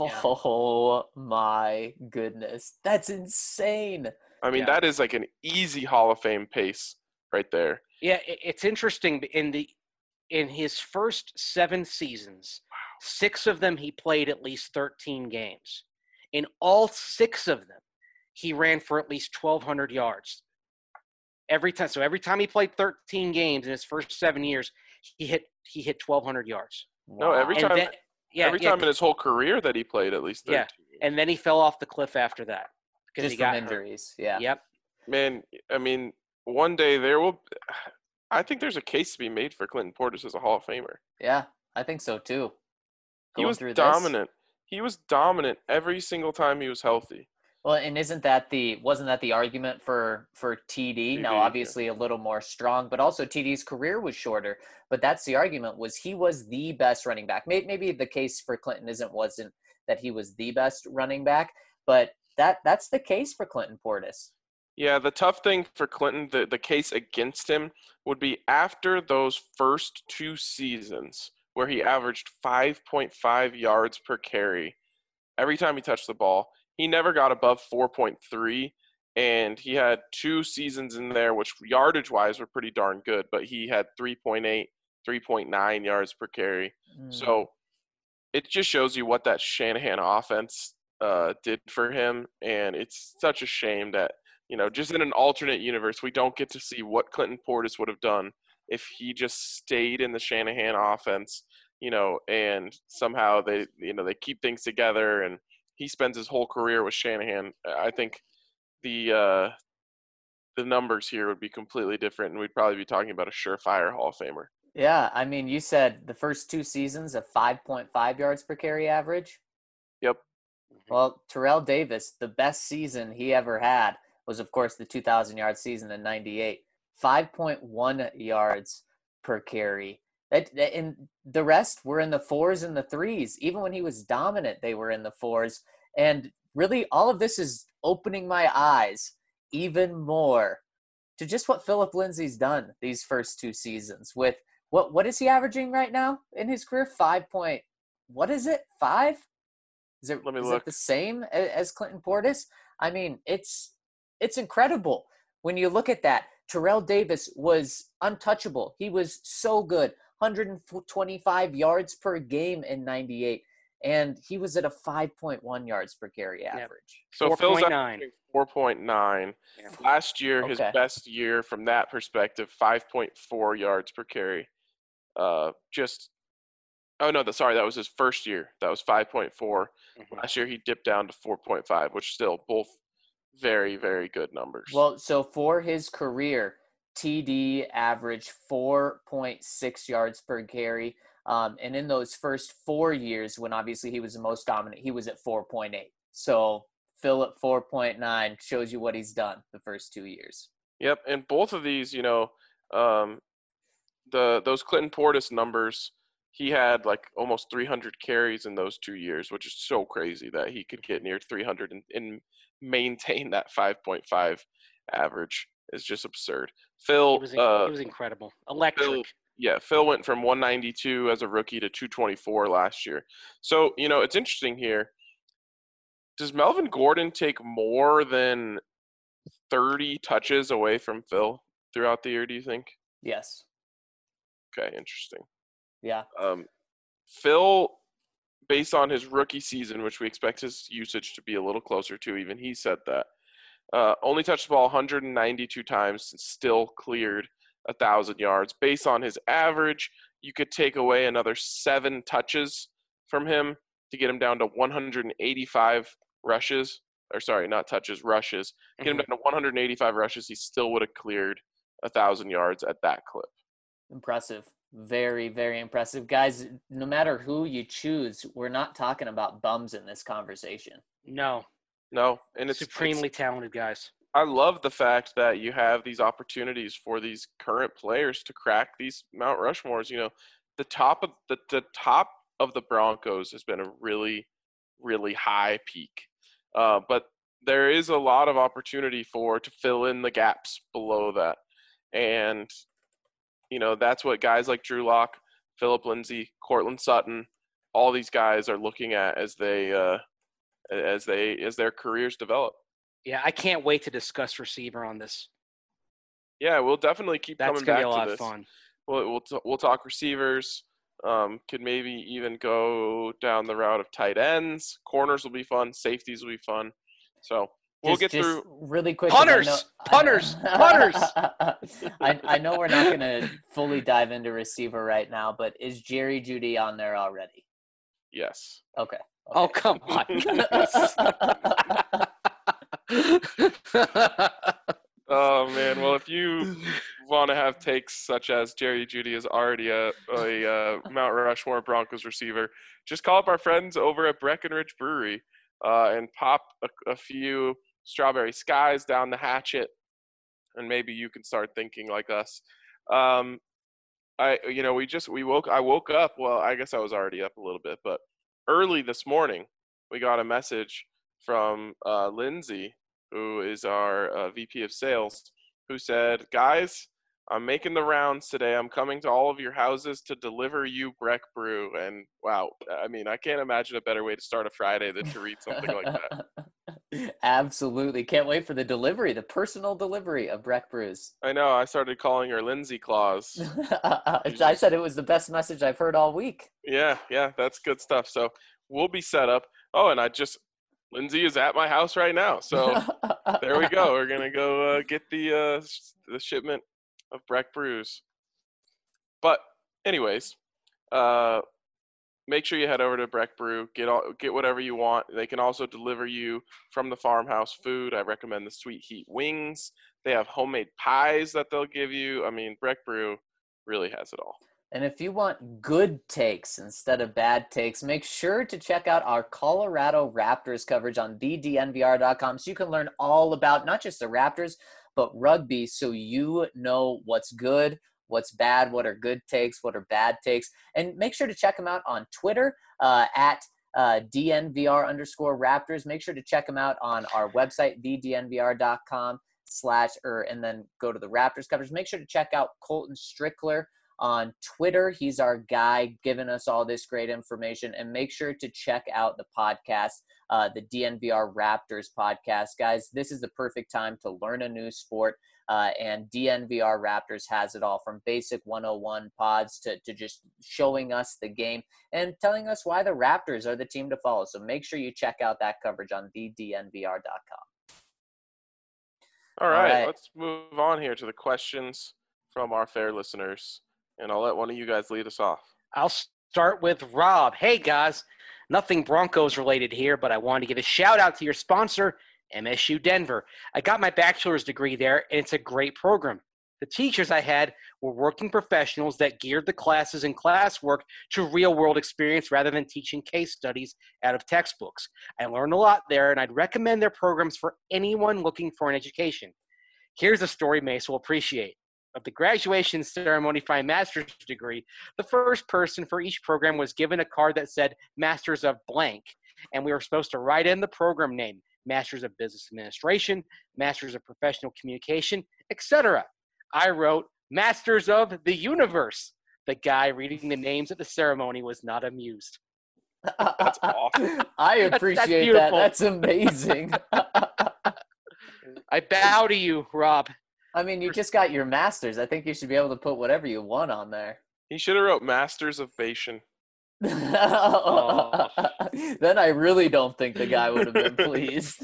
oh my goodness. That's insane. I mean, Yeah. that is like an easy Hall of Fame pace right there. Yeah, it- it's interesting. In the in his first seven seasons, six of them he played at least thirteen games. In all six of them, he ran for at least twelve hundred yards. Every time, so every time he played thirteen games in his first seven years, he hit he hit twelve hundred yards. No, every Wow. And time, then, yeah, every yeah, time in his whole career that he played at least thirteen. Yeah. and then he fell off the cliff after that because Just he from got hurt. injuries. Yeah. Yep. Man, I mean, one day there will. I think there's a case to be made for Clinton Portis as a Hall of Famer. Yeah, I think so too. He Going was through this. dominant. He was dominant every single time he was healthy. Well, and isn't that the wasn't that the argument for for T D? T D, Now, yeah. obviously a little more strong, but also T D's career was shorter. But that's the argument was he was the best running back. Maybe, maybe the case for Clinton isn't wasn't that he was the best running back, but that that's the case for Clinton Portis. Yeah, the tough thing for Clinton, the, the case against him would be after those first two seasons where he averaged five point five yards per carry every time he touched the ball. He never got above four point three, and he had two seasons in there which yardage-wise were pretty darn good, but he had three point eight, three point nine yards per carry. Mm. So it just shows you what that Shanahan offense uh, did for him, and it's such a shame that, you know, just in an alternate universe, we don't get to see what Clinton Portis would have done if he just stayed in the Shanahan offense, you know, and somehow they, you know, they keep things together and he spends his whole career with Shanahan. I think the uh, the numbers here would be completely different, and we'd probably be talking about a surefire Hall of Famer. Yeah, I mean, you said the first two seasons of five point five yards per carry average. Yep. Well, Terrell Davis, the best season he ever had was, of course, the two thousand yard season in ninety-eight. five point one yards per carry. That, that, and the rest were in the fours and the threes. Even when he was dominant, they were in the fours. And really, all of this is opening my eyes even more to just what Philip Lindsay's done these first two seasons. With what what is he averaging right now in his career? Five point. What is it? Five? Is it, Let me is look. it the same as, as Clinton Portis? I mean, it's it's incredible when you look at that. Terrell Davis was untouchable. He was so good. one hundred twenty-five yards per game in ninety-eight. And he was at a five point one yards per carry average. So four Phil's point nine. four point nine. Yeah. Last year, his Okay. best year from that perspective, five point four yards per carry. Uh, just oh no, the, sorry, that was his first year. That was five point four. Mhm. Last year he dipped down to four point five, which still both very very good numbers. Well, so for his career, T D averaged four point six yards per carry. Um, and in those first four years, when obviously he was the most dominant, he was at four point eight. So Phil at four point nine shows you what he's done the first two years. Yep, and both of these, you know, um, the those Clinton Portis numbers, he had like almost three hundred carries in those two years, which is so crazy that he could get near three hundred and, and maintain that five point five average. Is just absurd. Phil, He was, uh, he was incredible. Electric. Phil, yeah, Phil went from one ninety-two as a rookie to two twenty-four last year. So, you know, it's interesting here. Does Melvin Gordon take more than thirty touches away from Phil throughout the year, do you think? Yes. Okay, interesting. Yeah. Um, Phil, based on his rookie season, which we expect his usage to be a little closer to, even he said that, uh, only touched the ball one hundred ninety-two times and still cleared one thousand yards. Based on his average, you could take away another seven touches from him to get him down to one hundred eighty-five rushes. Or sorry, not touches, rushes. Get him Mhm. down to one hundred eighty-five rushes. He still would have cleared one thousand yards at that clip. Impressive. Very, very impressive. Guys, no matter who you choose, we're not talking about bums in this conversation. No. No, and it's Supremely it's, talented guys. I love the fact that you have these opportunities for these current players to crack these Mount Rushmores. You know, the top of the, the top of the Broncos has been a really, really high peak, uh, but there is a lot of opportunity for to fill in the gaps below that, and you know that's what guys like Drew Lock, Philip Lindsay, Cortland Sutton, all these guys are looking at as they uh, as they as their careers develop. Yeah, I can't wait to discuss receiver on this. Yeah, we'll definitely keep That's coming gonna back be a lot to of this. fun. We'll we'll, t- we'll talk receivers. Um, could maybe even go down the route of tight ends. Corners will be fun. Safeties will be fun. So we'll Just- get just through. really quick. 'cause I Punters! know- Punters! Punters! I, I know we're not going to fully dive into receiver right now, but is Jerry Jeudy on there already? Yes. Okay. Oh, okay. come on. Oh man. Well, if you want to have takes such as Jerry Jeudy is already a, a uh, Mount Rushmore Broncos receiver, just call up our friends over at Breckenridge Brewery. uh, and pop a, a few strawberry skies down the hatchet, and maybe you can start thinking like us. Um, I, you know, we just we woke. I woke up. Well, I guess I was already up a little bit, but early this morning, we got a message from uh, Lindsay, who is our uh, V P of Sales, who said, "Guys, I'm making the rounds today. I'm coming to all of your houses to deliver you Breck Brew." And wow, I mean, I can't imagine a better way to start a Friday than to read something like that. Absolutely. Can't wait for the delivery, the personal delivery of Breck Brews. I know. I started calling her Lindsay Claus. I said it was the best message I've heard all week. Yeah, yeah, that's good stuff. So we'll be set up. Oh, and I just, Lindsay is at my house right now. So there we go. We're going to go uh, get the uh, sh- the shipment of Breck Brews. But anyways, uh, make sure you head over to Breck Brew. Get all, get whatever you want. They can also deliver you from the farmhouse food. I recommend the Sweet Heat wings. They have homemade pies that they'll give you. I mean, Breck Brew really has it all. And if you want good takes instead of bad takes, make sure to check out our Colorado Raptors coverage on the D N V R dot com so you can learn all about not just the Raptors, but rugby, so you know what's good, what's bad, what are good takes, what are bad takes. And make sure to check them out on Twitter uh, at uh, D N V R underscore Raptors. Make sure to check them out on our website, the D N V R dot com slash, or, and then go to the Raptors coverage. Make sure to check out Colton Strickler on Twitter. He's our guy giving us all this great information. And make sure to check out the podcast, uh, the D N V R Raptors podcast. Guys, this is the perfect time to learn a new sport. Uh, and D N V R Raptors has it all, from basic one oh one pods to, to just showing us the game and telling us why the Raptors are the team to follow. So make sure you check out that coverage on the D N V R dot com. All right, All right. Let's move on here to the questions from our fair listeners. And I'll let one of you guys lead us off. I'll start with Rob. Hey, guys. Nothing Broncos related here, but I wanted to give a shout out to your sponsor, M S U Denver. I got my bachelor's degree there, and it's a great program. The teachers I had were working professionals that geared the classes and classwork to real-world experience rather than teaching case studies out of textbooks. I learned a lot there, and I'd recommend their programs for anyone looking for an education. Here's a story Mace will appreciate. Of the graduation ceremony for my master's degree, the first person for each program was given a card that said Masters of Blank, and we were supposed to write in the program name, Masters of Business Administration, Masters of Professional Communication, et cetera. I wrote Masters of the Universe. The guy reading the names at the ceremony was not amused. That's awesome. I That's- that's appreciate that. beautiful. That's amazing. I bow to you, Rob. I mean, you just got your master's. I think you should be able to put whatever you want on there. He should have wrote Masters of Bation. Then I really don't think the guy would have been pleased.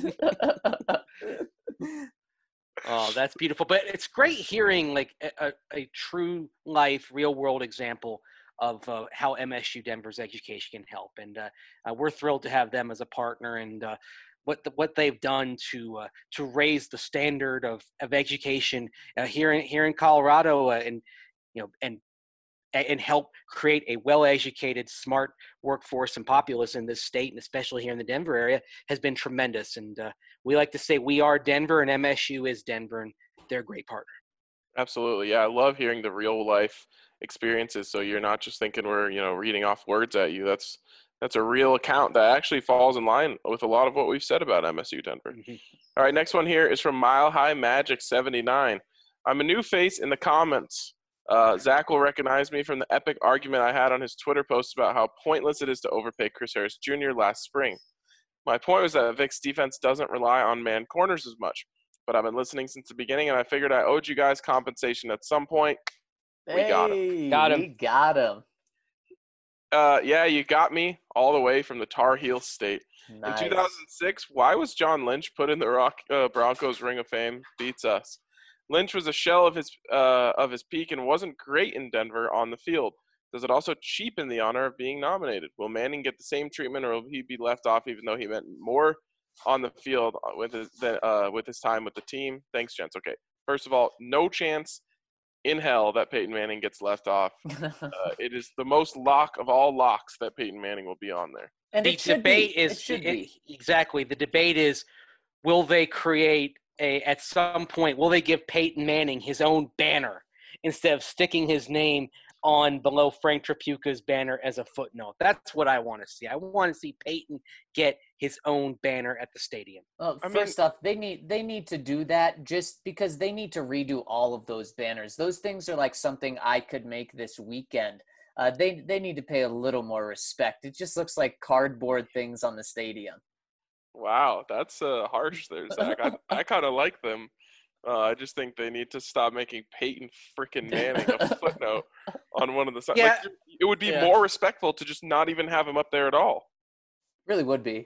Oh, that's beautiful. But it's great hearing like a, a, a true life, real world example of uh, how M S U Denver's education can help. And uh, uh, we're thrilled to have them as a partner, and uh, what the, what they've done to uh, to raise the standard of, of education uh, here in here in Colorado, uh, and you know and and help create a well-educated, smart workforce and populace in this state, and especially here in the Denver area, has been tremendous. And uh, we like to say we are Denver, and M S U is Denver, and they're a great partner. Absolutely. Yeah, I love hearing the real life experiences. So you're not just thinking we're, you know, reading off words at you. That's that's a real account that actually falls in line with a lot of what we've said about M S U Denver. Mm-hmm. All right, next one here is from Mile High Magic seventy-nine. I'm a new face in the comments. Uh, Zach will recognize me from the epic argument I had on his Twitter post about how pointless it is to overpay Chris Harris Junior last spring. My point was that Vic's defense doesn't rely on man corners as much, but I've been listening since the beginning, and I figured I owed you guys compensation at some point. We got him. Hey, Got him. We got him. Uh, yeah, you got me all the way from the Tar Heel State. Nice. In two thousand six, why was John Lynch put in the Rock, uh, Broncos Ring of Fame? Beats us. Lynch was a shell of his uh, of his peak and wasn't great in Denver on the field. Does it also cheapen the honor of being nominated? Will Manning get the same treatment, or will he be left off even though he meant more on the field with his, uh, with his time with the team? Thanks, gents. Okay, first of all, no chance in hell that Peyton Manning gets left off. Uh, it is the most lock of all locks that Peyton Manning will be on there. And the it should debate be. is it should it- be. exactly the debate is will they create a at some point will they give Peyton Manning his own banner instead of sticking his name on below Frank Tripucka's banner as a footnote? That's what I want to see. I want to see Peyton get his own banner at the stadium. Well, I first mean- off, they need they need to do that just because they need to redo all of those banners. Those things are like something I could make this weekend. Uh, they they need to pay a little more respect. It just looks like cardboard things on the stadium. Wow, that's uh, harsh there, Zach. I, I kind of like them. Uh, I just think they need to stop making Peyton freaking Manning a footnote on one of the sides. Yeah. Like, it would be Yeah. more respectful to just not even have him up there at all. Really would be.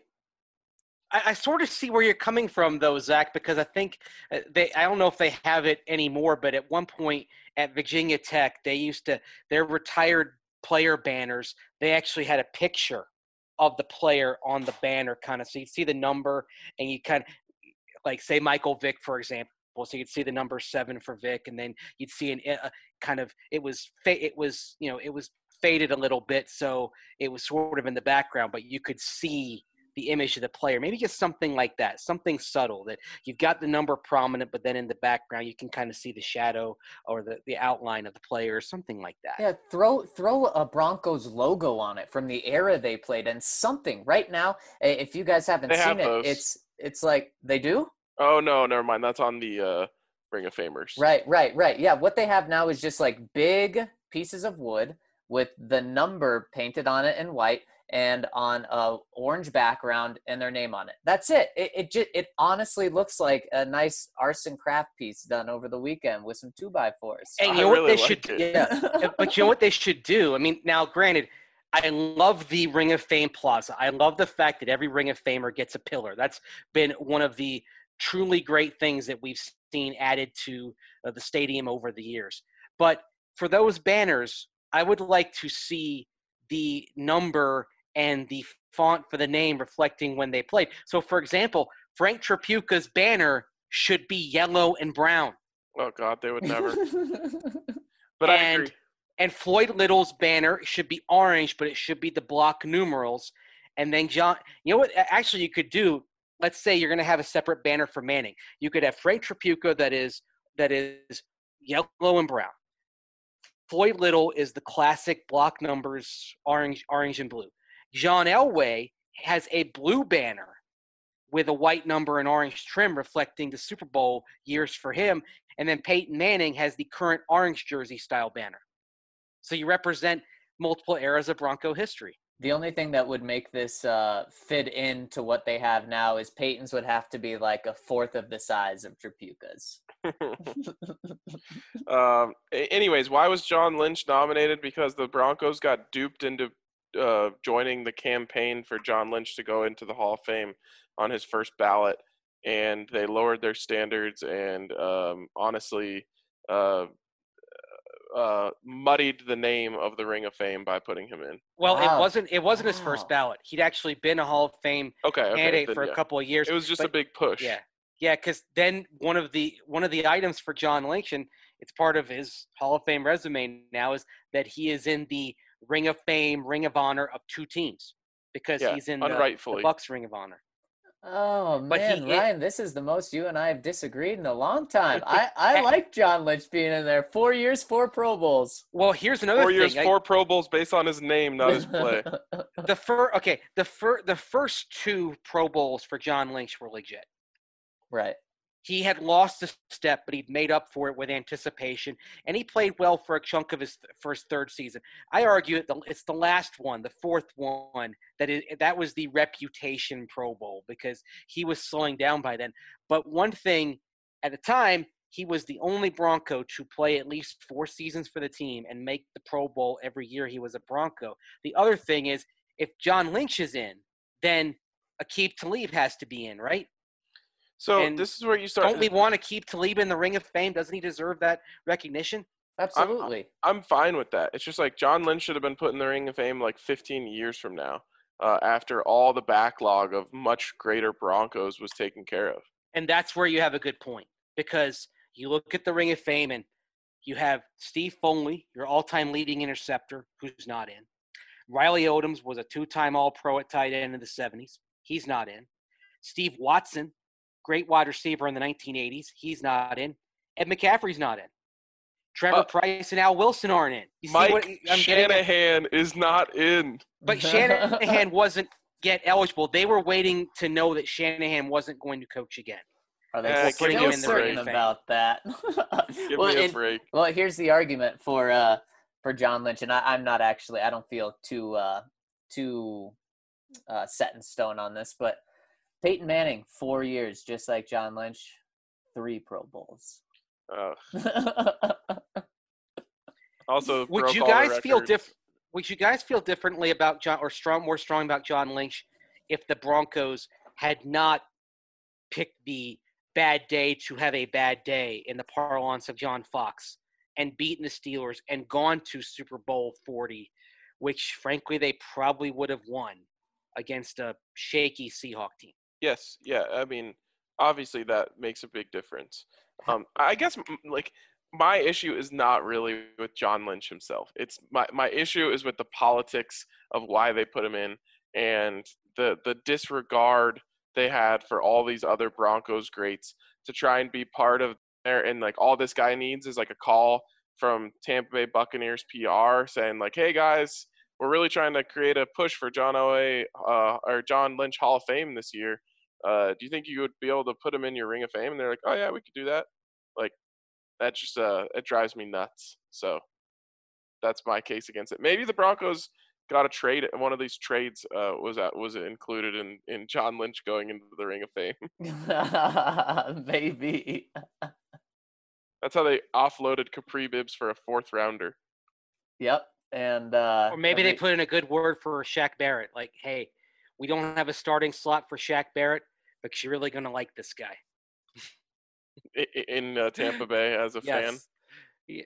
I, I sort of see where you're coming from, though, Zach, because I think uh, they. I don't know if they have it anymore, but at one point at Virginia Tech, they used to their retired player banners. They actually had a picture of the player on the banner, kind of, so you see the number, and you kind of like say Michael Vick, for example. So you'd see the number seven for Vic, and then you'd see an uh, kind of it was fa- it was you know it was faded a little bit, so it was sort of in the background, but you could see the image of the player. Maybe just something like that, something subtle that you've got the number prominent, but then in the background you can kind of see the shadow or the, the outline of the player, or something like that. Yeah, throw throw a Broncos logo on it from the era they played, and something right now. eh, If you guys haven't They have seen it, those. it's it's like they do. Oh, no, never mind. That's on the uh, Ring of Famers. Right, right, right. Yeah, what they have now is just like big pieces of wood with the number painted on it in white and on a orange background and their name on it. That's it. It it just it honestly looks like a nice arts and craft piece done over the weekend with some two by fours. And I you know what really they like should it. yeah, but you know what they should do? I mean, now granted, I love the Ring of Fame Plaza. I love the fact that every Ring of Famer gets a pillar. That's been one of the truly great things that we've seen added to uh, the stadium over the years. But for those banners, I would like to see the number and the font for the name reflecting when they played. So, for example, Frank Tripucka's banner should be yellow and brown. Oh, God, they would never. But I And- agree. And Floyd Little's banner should be orange, but it should be the block numerals. And then John, you know what? Actually, you could do. Let's say you're going to have a separate banner for Manning. You could have Frank Tripucka that is that is yellow and brown. Floyd Little is the classic block numbers, orange, orange and blue. John Elway has a blue banner with a white number and orange trim reflecting the Super Bowl years for him. And then Peyton Manning has the current orange jersey style banner. So you represent multiple eras of Bronco history. The only thing that would make this uh, fit into what they have now is Peyton's would have to be like a fourth of the size of Tripucka's. um, a- anyways, why was John Lynch nominated? Because the Broncos got duped into uh, joining the campaign for John Lynch to go into the Hall of Fame on his first ballot, and they lowered their standards and um, honestly uh, uh, muddied the name of the Ring of Fame by putting him in. Well, Wow. it wasn't it wasn't his Wow. first ballot. He'd actually been a Hall of Fame Okay, okay. candidate then for yeah. a couple of years. It was just a but- big push. Yeah, yeah, because then one of the one of the items for John Lynch, and it's part of his Hall of Fame resume now, is that he is in the Ring of Fame, Ring of Honor of two teams because Yeah, he's in the, the unrightfully. Bucks Ring of Honor. Oh But he- man, it- Ryan, this is the most you and I have disagreed in a long time. I, I And- like John Lynch being in there. Four years, four Pro Bowls. Well, here's another Four thing. years, I- four Pro Bowls based on his name, not his play. the fir- okay, the fir- the first two Pro Bowls for John Lynch were legit. Right. He had lost a step, but he'd made up for it with anticipation, and he played well for a chunk of his first third season. I argue it the, it's the last one, the fourth one, that is, that was the reputation Pro Bowl because he was slowing down by then. But one thing, at the time, he was the only Bronco to play at least four seasons for the team and make the Pro Bowl every year he was a Bronco. The other thing is, if John Lynch is in, then Aqib Talib has to be in, right? So And this is where you start. Don't we want to keep Talib in the Ring of Fame? Doesn't he deserve that recognition? Absolutely. I'm fine with that. It's just like John Lynch should have been put in the Ring of Fame like fifteen years from now, uh, after all the backlog of much greater Broncos was taken care of. And that's where you have a good point because you look at the Ring of Fame and You have Steve Foley, your all-time leading interceptor, who's not in. Riley Odoms was a two-time All-Pro at tight end in the seventies. He's not in. Steve Watson, great wide receiver in the nineteen eighties. He's not in. Ed McCaffrey's not in. Trevor Uh, Price and Al Wilson aren't in. You see Mike what I'm getting at? Shanahan is not in. But Shanahan wasn't yet eligible. They were waiting to know that Shanahan wasn't going to coach again. Are they Uh, give still me a certain break. about that? Give well, me a and- break. well, here's the argument for uh, for John Lynch, and I, I'm not actually. I don't feel too uh, too uh, set in stone on this, but Peyton Manning, four years, just like John Lynch, three Pro Bowls. Uh, also, Would broke you all the guys feel records. diff- Would you guys feel differently about John, or strong, more strong about John Lynch, if the Broncos had not picked the bad day to have a bad day in the parlance of John Fox and beaten the Steelers and gone to Super Bowl forty, which frankly they probably would have won against a shaky Seahawk team? Yes, yeah. I mean, obviously that makes a big difference. Um, I guess m- like my issue is not really with John Lynch himself. It's my my issue is with the politics of why they put him in and the the disregard they had for all these other Broncos greats to try and be part of there. And like all this guy needs is like a call from Tampa Bay Buccaneers P R saying like, "Hey guys, we're really trying to create a push for John Elway uh, or John Lynch Hall of Fame this year. Uh, do you think you would be able to put him in your Ring of Fame?" And they're like, "Oh yeah, we could do that." Like that just uh, it drives me nuts. So that's my case against it. Maybe the Broncos got a trade. One of these trades uh, was at, was included in in John Lynch going into the Ring of Fame. Maybe. That's how they offloaded Capri Bibbs for a fourth rounder. Yep. And uh, Or maybe they every- put in a good word for Shaq Barrett. Like, hey, we don't have a starting slot for Shaq Barrett, but you're really going to like this guy. i- i- in uh, Tampa Bay as a fan. Yes. Yeah.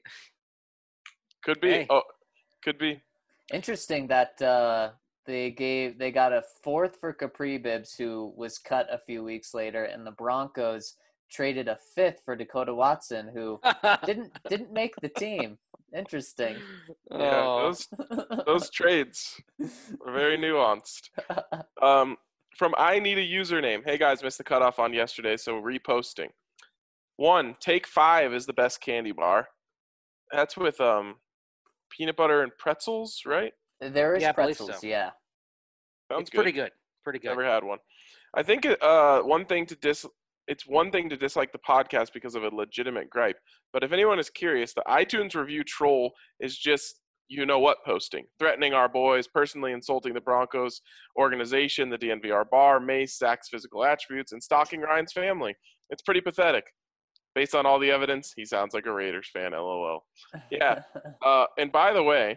Could be. Hey. Oh, could be. Interesting that uh, they gave they got a fourth for Capri Bibbs, who was cut a few weeks later, and the Broncos traded a fifth for Dakota Watson, who didn't didn't make the team. Interesting. Yeah, Oh. those those trades are very nuanced. Um, from I need a username. Hey guys, missed the cutoff on yesterday, so reposting. One, Take Five is the best candy bar. That's with um peanut butter and pretzels, right? There is Yeah, I believe pretzels, so. yeah. Sounds It's good. pretty good. Pretty good. Never had one. I think it, uh one thing to dis it's one thing to dislike the podcast because of a legitimate gripe. But if anyone is curious, the iTunes review troll is just you know what posting, threatening our boys, personally insulting the Broncos organization, the D N V R bar, Mace, Zach's physical attributes, and stalking Ryan's family. It's pretty pathetic. Based on all the evidence, he sounds like a Raiders fan, LOL. Yeah. Uh, and by the way,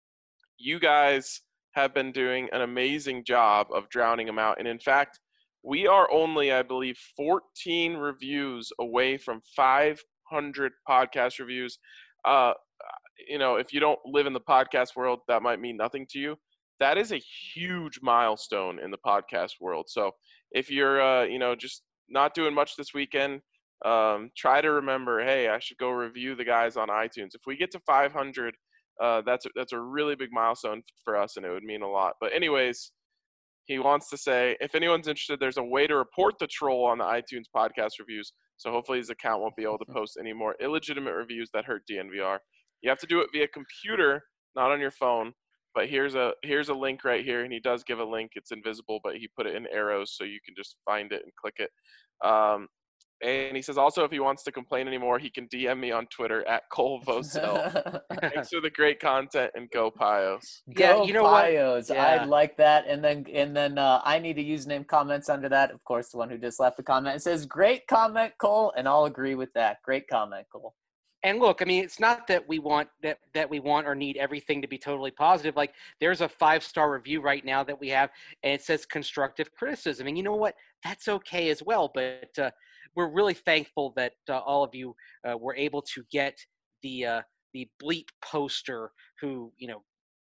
you guys have been doing an amazing job of drowning him out. And in fact, we are only, I believe, fourteen reviews away from five hundred podcast reviews. Uh, you know, if you don't live in the podcast world, that might mean nothing to you. That is a huge milestone in the podcast world. So if you're, uh, you know, just not doing much this weekend, um, try to remember, hey, I should go review the guys on iTunes. If we get to five hundred, uh, that's a, that's a really big milestone for us, and it would mean a lot. But anyways, he wants to say, if anyone's interested, there's a way to report the troll on the iTunes podcast reviews. So hopefully his account won't be able to post any more illegitimate reviews that hurt D N V R. You have to do it via computer, not on your phone. But here's a here's a link right here, and he does give a link. It's invisible, but he put it in arrows so you can just find it and click it. Um, and he says also if he wants to complain anymore, he can D M me on Twitter at Cole Vosel. Thanks for the great content, and go Pios. Yeah, Go you know what? Pios. Yeah. I'd like that. And then and then uh, I need a username comments under that. Of course, the one who just left the comment. It says, great comment, Cole, and I'll agree with that. Great comment, Cole. And look, I mean, it's not that we want that that we want or need everything to be totally positive. Like, there's a five-star review right now that we have, and it says constructive criticism. And you know what? That's okay as well. But uh, we're really thankful that uh, all of you uh, were able to get the uh, the bleep poster who, you know,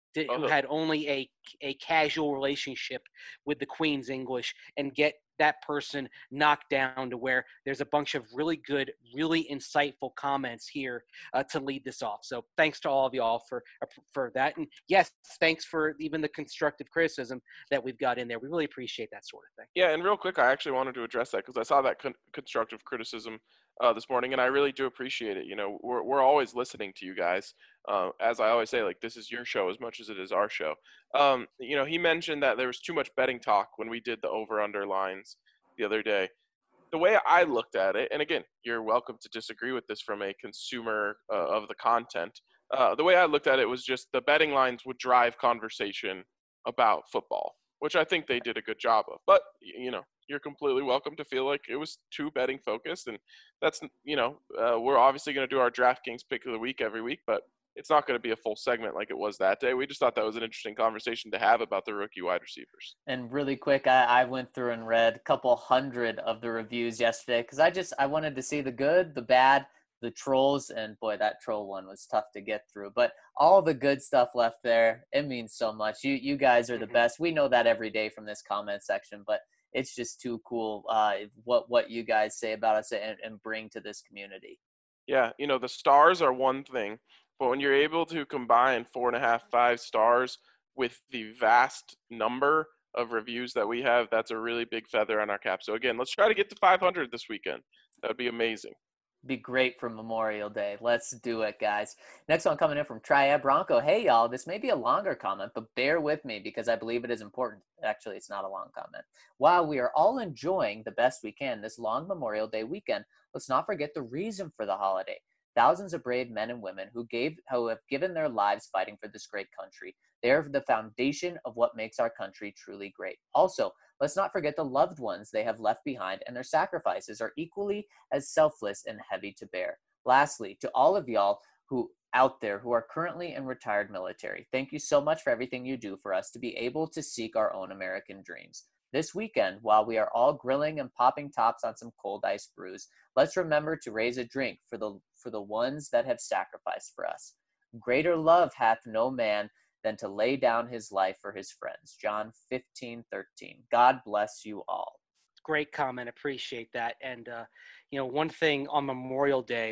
who Uh-huh. had only a a casual relationship with the Queen's English, and get that person knocked down to where there's a bunch of really good, really insightful comments here uh, to lead this off. So thanks to all of y'all for for that. And yes, thanks for even the constructive criticism that we've got in there. We really appreciate that sort of thing. Yeah, and real quick, I actually wanted to address that because I saw that con- constructive criticism uh, this morning, and I really do appreciate it. You know, we're we're always listening to you guys. Uh, as I always say, like, this is your show as much as it is our show. Um, you know, he mentioned that there was too much betting talk when we did the over-under lines the other day. The way I looked at it, and again, you're welcome to disagree with this from a consumer uh, of the content. Uh, the way I looked at it was just the betting lines would drive conversation about football, which I think they did a good job of. But, you know, you're completely welcome to feel like it was too betting focused. And that's, you know, uh, we're obviously going to do our DraftKings pick of the week every week, but it's not going to be a full segment like it was that day. We just thought that was an interesting conversation to have about the rookie wide receivers. And really quick, I, I went through and read a couple hundred of the reviews yesterday because I just I wanted to see the good, the bad, the trolls, and boy, that troll one was tough to get through. But all the good stuff left there, it means so much. You you guys are the Mhm. best. We know that every day from this comment section, but it's just too cool uh, what what you guys say about us and, and bring to this community. Yeah, you know, the stars are one thing, but when you're able to combine four and a half, five stars with the vast number of reviews that we have, that's a really big feather on our cap. So again, let's try to get to five hundred this weekend. That would be amazing. Be great for Memorial Day. Let's do it, guys. Next one coming in from Triad Bronco. Hey, y'all, this may be a longer comment, but bear with me because I believe it is important. Actually, it's not a long comment. While we are all enjoying the best we can this long Memorial Day weekend, let's not forget the reason for the holiday. Thousands of brave men and women who gave, who have given their lives fighting for this great country. They are the foundation of what makes our country truly great. Also, let's not forget the loved ones they have left behind, and their sacrifices are equally as selfless and heavy to bear. Lastly, to all of y'all who out there who are currently in retired military, thank you so much for everything you do for us to be able to seek our own American dreams. This weekend, while we are all grilling and popping tops on some cold ice brews, let's remember to raise a drink for the for the ones that have sacrificed for us. Greater love hath no man than to lay down his life for his friends. John fifteen thirteen. God bless you all. Great comment. Appreciate that. And, uh, you know, one thing on Memorial Day,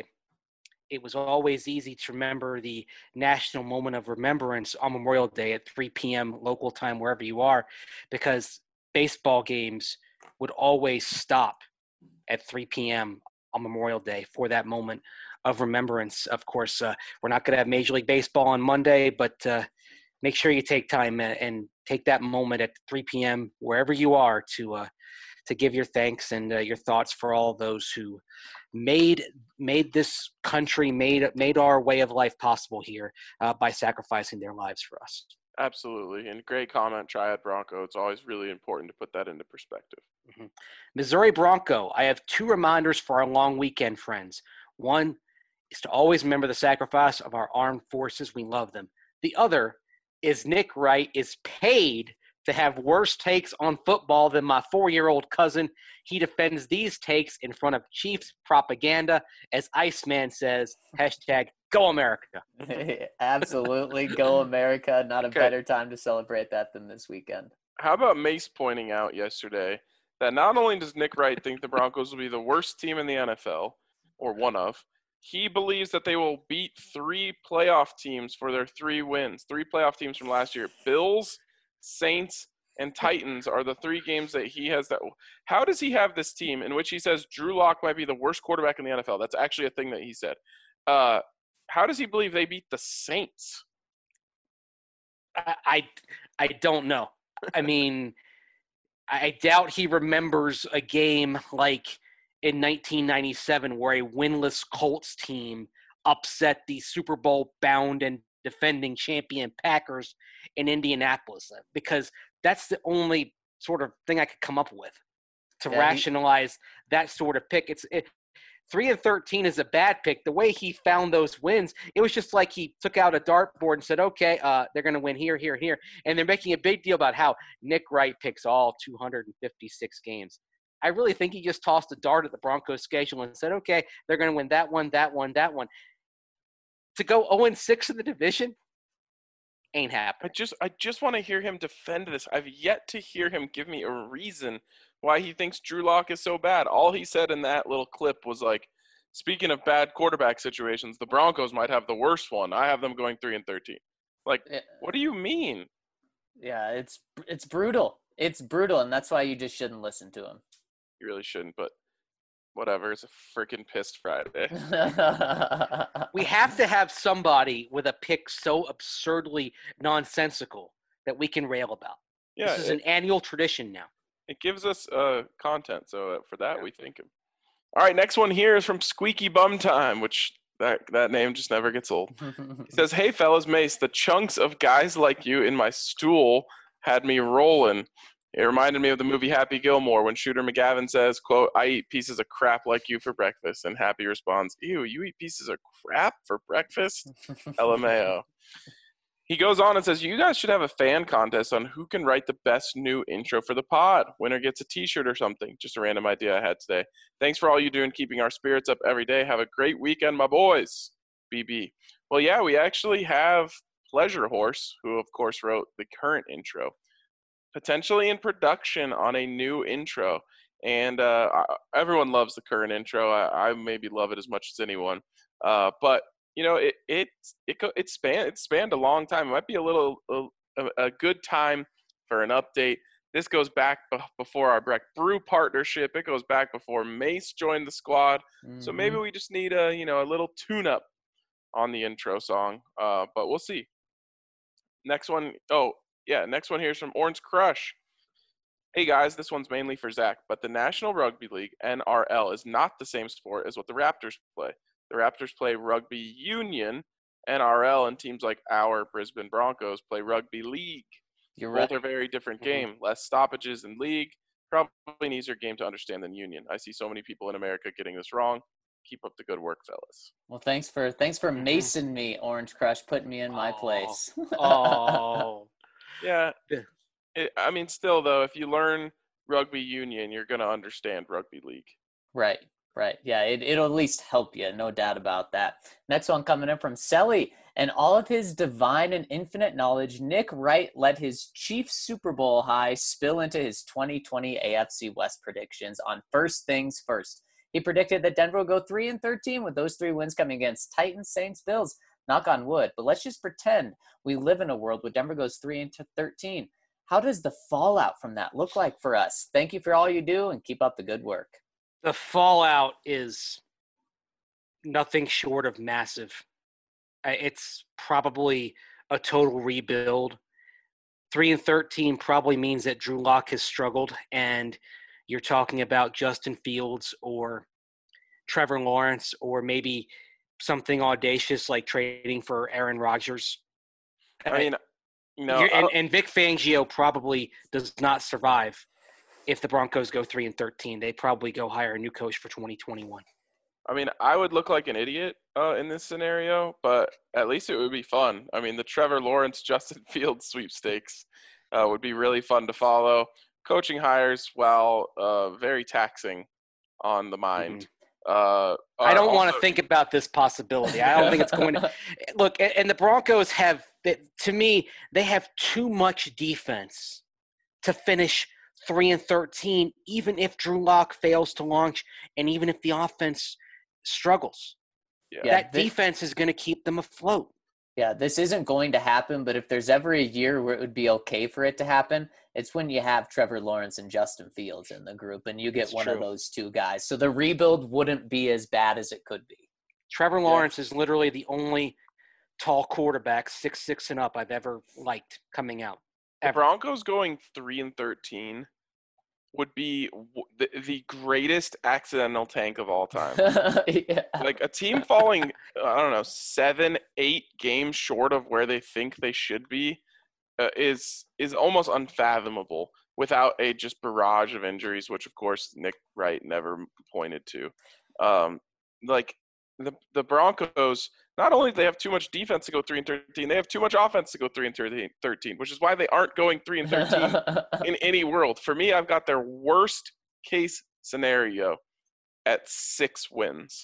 it was always easy to remember the national moment of remembrance on Memorial Day at three p.m. local time, wherever you are, because baseball games would always stop at three p.m. on Memorial Day for that moment of remembrance. Of course, uh, we're not going to have Major League Baseball on Monday, but uh, make sure you take time and, and take that moment at three p.m. wherever you are to uh, to give your thanks and uh, your thoughts for all those who made made this country, made made our way of life possible here uh, by sacrificing their lives for us. Absolutely. And great comment, Triad Bronco. It's always really important to put that into perspective. Mm-hmm. Missouri Bronco, I have two reminders for our long weekend friends. One is to always remember the sacrifice of our armed forces. We love them. The other is Nick Wright is paid to have worse takes on football than my four-year-old cousin. He defends these takes in front of Chiefs propaganda, as Iceman says, hashtag Go America. Absolutely. Go America. Not a Okay. better time to celebrate that than this weekend. How about Mace pointing out yesterday that not only does Nick Wright think the Broncos will be the worst team in the N F L, or one of, he believes that they will beat three playoff teams for their three wins. Three playoff teams from last year. Bills, Saints, and Titans are the three games that he has. That. How does he have this team in which he says Drew Lock might be the worst quarterback in the N F L? That's actually a thing that he said. Uh, how does he believe they beat the Saints? I, I, I don't know. I mean, I doubt he remembers a game like in nineteen ninety-seven where a winless Colts team upset the Super Bowl bound and defending champion Packers in Indianapolis, because that's the only sort of thing I could come up with to Yeah, he- rationalize that sort of pick. It's it, three and thirteen is a bad pick. The way he found those wins, it was just like he took out a dartboard and said, okay, uh, they're going to win here, here, here. And they're making a big deal about how Nick Wright picks all two hundred fifty-six games. I really think he just tossed a dart at the Broncos schedule and said, okay, they're going to win that one, that one, that one. To go oh and six in the division, Ain't I happening. just I just want to hear him defend this. I've yet to hear him give me a reason why he thinks Drew Lock is so bad. All he said in that little clip was like, speaking of bad quarterback situations, the Broncos might have the worst one. I have them going three and thirteen. Like, Yeah. what do you mean? Yeah, it's it's brutal. It's brutal, and that's why you just shouldn't listen to him. You really shouldn't, but whatever. It's a freaking pissed Friday. We have to have somebody with a pick so absurdly nonsensical that we can rail about. Yeah, This is it, an annual tradition now. it gives us uh, content, so uh, for that we thank him. All right, next one here is from Squeaky Bum Time, which that that name just never gets old. He says, "Hey fellas, Mace, the chunks of guys like you in my stool had me rolling. It reminded me of the movie Happy Gilmore when Shooter McGavin says, quote, I eat pieces of crap like you for breakfast. And Happy responds, ew, you eat pieces of crap for breakfast? L M A O. He goes on and says, you guys should have a fan contest on who can write the best new intro for the pod. Winner gets a t-shirt or something. Just a random idea I had today. Thanks for all you do in keeping our spirits up every day. Have a great weekend, my boys. B B. Well, yeah, we actually have Pleasure Horse, who, of course, wrote the current intro, potentially in production on a new intro. And uh, everyone loves the current intro. I, I maybe love it as much as anyone. Uh, but, you know, it it it it spanned, it spanned a long time. It might be a little a, a good time for an update. This goes back b- before our Breck Brew partnership. It goes back before Mace joined the squad. Mm-hmm. So maybe we just need a, you know, a little tune-up on the intro song. Uh, but we'll see. Next one. Oh, yeah, next one here is from Orange Crush. Hey guys, this one's mainly for Zach, but the National Rugby League, N R L, is not the same sport as what the Raptors play. The Raptors play rugby union. N R L and teams like our Brisbane Broncos play rugby league. You're Both right. are very different Mm-hmm. game. Less stoppages in league. Probably an easier game to understand than union. I see so many people in America getting this wrong. Keep up the good work, fellas. Well, thanks for thanks for macing me, Orange Crush, putting me in my Oh. place. Oh. Yeah. It, I mean, still, though, if you learn rugby union, you're going to understand rugby league. Right, right. Yeah, it, it'll at least help you, no doubt about that. Next one coming in from Selly. And all of his divine and infinite knowledge, Nick Wright let his Chiefs Super Bowl high spill into his twenty twenty A F C West predictions on First Things First. He predicted that Denver will go three and thirteen with those three wins coming against Titans, Saints, Bills. Knock on wood. But let's just pretend we live in a world where Denver goes three and thirteen. How does the fallout from that look like for us? Thank you for all you do and keep up the good work. The fallout is nothing short of massive. It's probably a total rebuild. Three and thirteen probably means that Drew Lock has struggled, and you're talking about Justin Fields or Trevor Lawrence or maybe something audacious like trading for Aaron Rodgers. I mean, no, You're, and, and Vic Fangio probably does not survive if the Broncos go three and thirteen. They probably go hire a new coach for twenty twenty-one. I mean, I would look like an idiot uh, in this scenario, but at least it would be fun. I mean, the Trevor Lawrence, Justin Fields sweepstakes uh, would be really fun to follow. Coaching hires, while uh, very taxing on the mind. Mm-hmm. Uh, I don't also, want to think about this possibility. I don't think it's going to – look, and the Broncos have – to me, they have too much defense to finish three and thirteen, even if Drew Lock fails to launch and even if the offense struggles. Yeah. That this, defense is going to keep them afloat. Yeah, this isn't going to happen, but if there's ever a year where it would be okay for it to happen, it's when you have Trevor Lawrence and Justin Fields in the group and you get It's one true. of those two guys. So the rebuild wouldn't be as bad as it could be. Trevor Lawrence yeah. is literally the only tall quarterback, six six and up, I've ever liked coming out. The Ever. Broncos going three and thirteen would be the, the greatest accidental tank of all time. Yeah. Like a team falling, I don't know, seven, eight games short of where they think they should be uh, is is almost unfathomable without a just barrage of injuries, which of course Nick Wright never pointed to. Um, like the the Broncos, not only do they have too much defense to go three and thirteen, they have too much offense to go three and thirteen, which is why they aren't going three and thirteen in any world. For me, I've got their worst case scenario at six wins.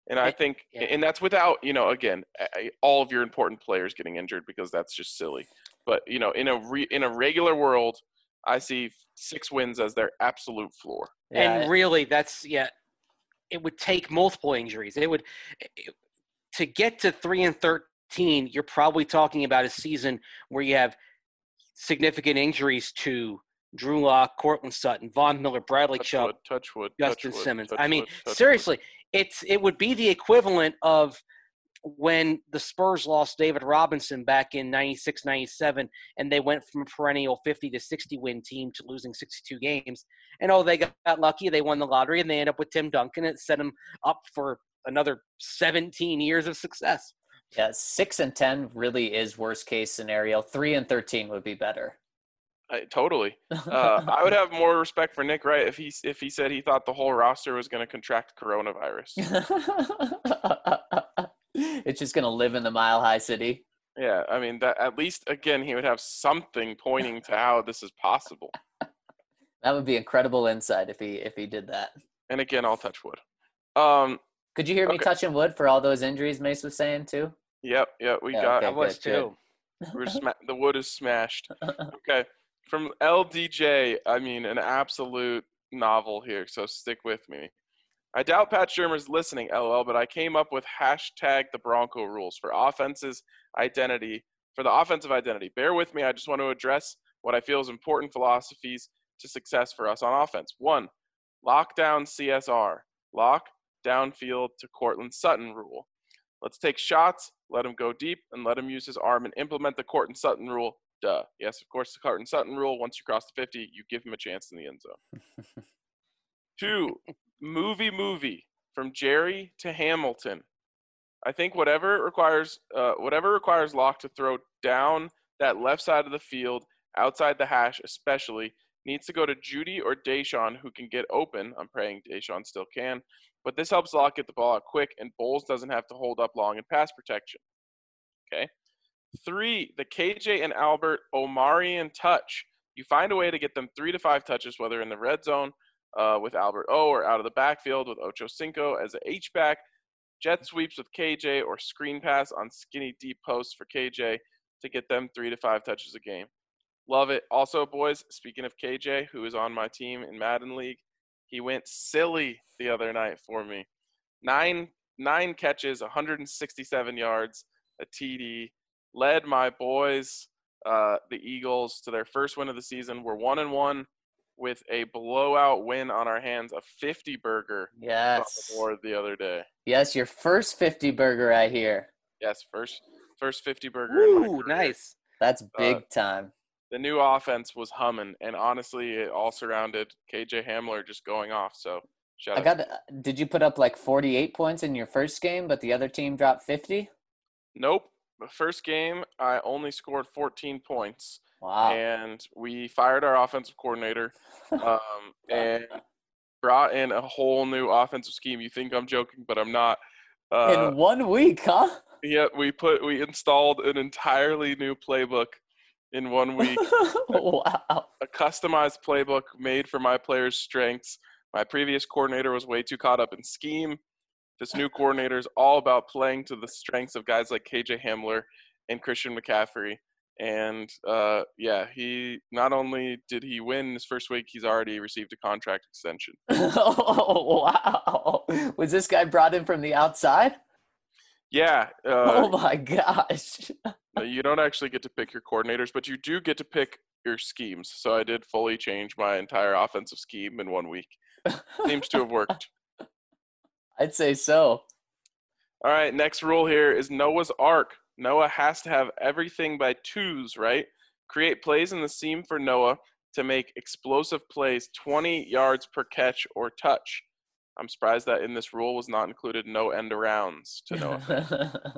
And I And- think, yeah. and that's without, you know, again, a- all of your important players getting injured because that's just silly. But, you know, in a re, in a regular world, I see six wins as their absolute floor. Yeah, and really, that's yeah. It would take multiple injuries. It would it, to get to three and thirteen. You're probably talking about a season where you have significant injuries to Drew Lock, Cortland Sutton, Von Miller, Bradley Touch Chubb, wood, touch wood, Justin touch wood, Simmons. touch I mean, wood, touch wood. seriously, it's it would be the equivalent of when the Spurs lost David Robinson back in ninety-six ninety-seven, and they went from a perennial fifty to sixty win team to losing sixty-two games. And oh, they got, got lucky. They won the lottery, and they end up with Tim Duncan. It set them up for another seventeen years of success. yeah, six and ten really is worst case scenario. Three and thirteen would be better. I, totally. Uh, I would have more respect for Nick Wright if he if he said he thought the whole roster was going to contract coronavirus. It's just gonna live in the Mile High City. Yeah, I mean that at least again he would have something pointing to how this is possible. That would be incredible insight if he if he did that. And again, I'll touch wood. Um, Could you hear me Okay. touching wood for all those injuries Mace was saying too? yep, yep, we Yeah, got I okay. was good, too. we're sma- the wood is smashed. Okay, from L D J, I mean an absolute novel here, so stick with me. I doubt Pat Shermer's listening, lol, but I came up with hashtag the Bronco rules for offenses identity, for the offensive identity. Bear with me, I just want to address what I feel is important philosophies to success for us on offense. One, lockdown C S R, lock downfield to Cortland Sutton rule. Let's take shots, let him go deep, and let him use his arm and implement the Cortland Sutton rule. Duh. Yes, of course, the Cortland Sutton rule. Once you cross the fifty, you give him a chance in the end zone. Two, movie movie from Jerry to Hamilton. I think whatever requires uh, whatever requires Locke to throw down that left side of the field, outside the hash especially, needs to go to Judy or Deshaun, who can get open. I'm praying Deshaun still can. But this helps Locke get the ball out quick, and Bowles doesn't have to hold up long in pass protection. Okay. Three, the K J and Albert Omarion touch. You find a way to get them three to five touches, whether in the red zone uh, with Albert O or out of the backfield with Ocho Cinco as an H-back, jet sweeps with K J, or screen pass on skinny deep posts for K J to get them three to five touches a game. Love it. Also, boys, speaking of K J, who is on my team in Madden League, he went silly the other night for me. Nine nine catches, one hundred sixty-seven yards, a T D. Led my boys, uh, the Eagles, to their first win of the season. We're one and one with a blowout win on our hands, a fifty burger on Yes. the board the other day. Yes, your first fifty burger I hear. Yes, first first fifty burger in my Ooh, career. nice. That's Uh, big time. The new offense was humming, and honestly, it all surrounded K J Hamler just going off. So shout I out. got. Did you put up like forty-eight points in your first game, but the other team dropped fifty? Nope. The first game, I only scored fourteen points, Wow. and we fired our offensive coordinator um, and brought in a whole new offensive scheme. You think I'm joking, but I'm not. Uh, in one week, huh? yeah, we put we installed an entirely new playbook in one week. Wow. A customized playbook made for my players' strengths. My previous coordinator was way too caught up in scheme. This new coordinator is all about playing to the strengths of guys like K J Hamler and Christian McCaffrey. And, uh, yeah, he not only did he win his first week, he's already received a contract extension. Oh, wow. Was this guy brought in from the outside? Yeah, Oh, uh, my gosh. you don't actually get to pick your coordinators, but you do get to pick your schemes. So I did fully change my entire offensive scheme in one week. Seems to have worked. I'd say so. All right, next rule here is Noah's Ark. Noah has to have everything by twos, right? Create plays in the seam for Noah to make explosive plays twenty yards per catch or touch. I'm surprised that in this rule was not included no end arounds to Noah.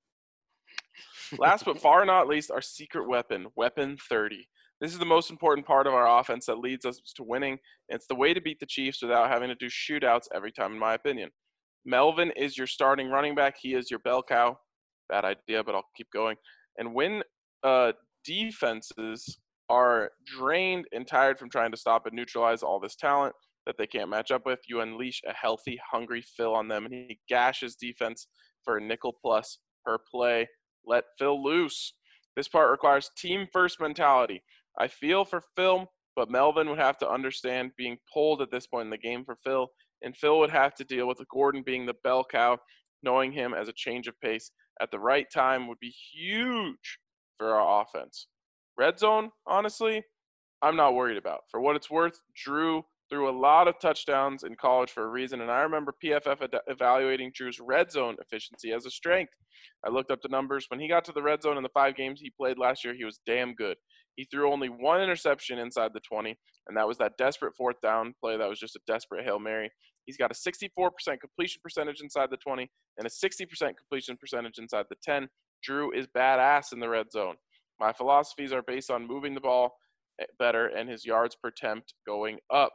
Last but far not least, our secret weapon, Weapon thirty. This is the most important part of our offense that leads us to winning. It's the way to beat the Chiefs without having to do shootouts every time, in my opinion. Melvin is your starting running back. He is your bell cow. Bad idea, but I'll keep going. And when uh, defenses are drained and tired from trying to stop and neutralize all this talent, that they can't match up with. You unleash a healthy, hungry Phil on them, and he gashes defense for a nickel plus per play. Let Phil loose. This part requires team-first mentality. I feel for Phil, but Melvin would have to understand being pulled at this point in the game for Phil, and Phil would have to deal with Gordon being the bell cow. Knowing him as a change of pace at the right time would be huge for our offense. Red zone, honestly, I'm not worried about. For what it's worth, Drew threw a lot of touchdowns in college for a reason, and I remember P F F ad- evaluating Drew's red zone efficiency as a strength. I looked up the numbers. When he got to the red zone in the five games he played last year, he was damn good. He threw only one interception inside the twenty, and that was that desperate fourth down play that was just a desperate Hail Mary. He's got a sixty-four percent completion percentage inside the twenty and a sixty percent completion percentage inside the ten. Drew is badass in the red zone. My philosophies are based on moving the ball better and his yards per attempt going up.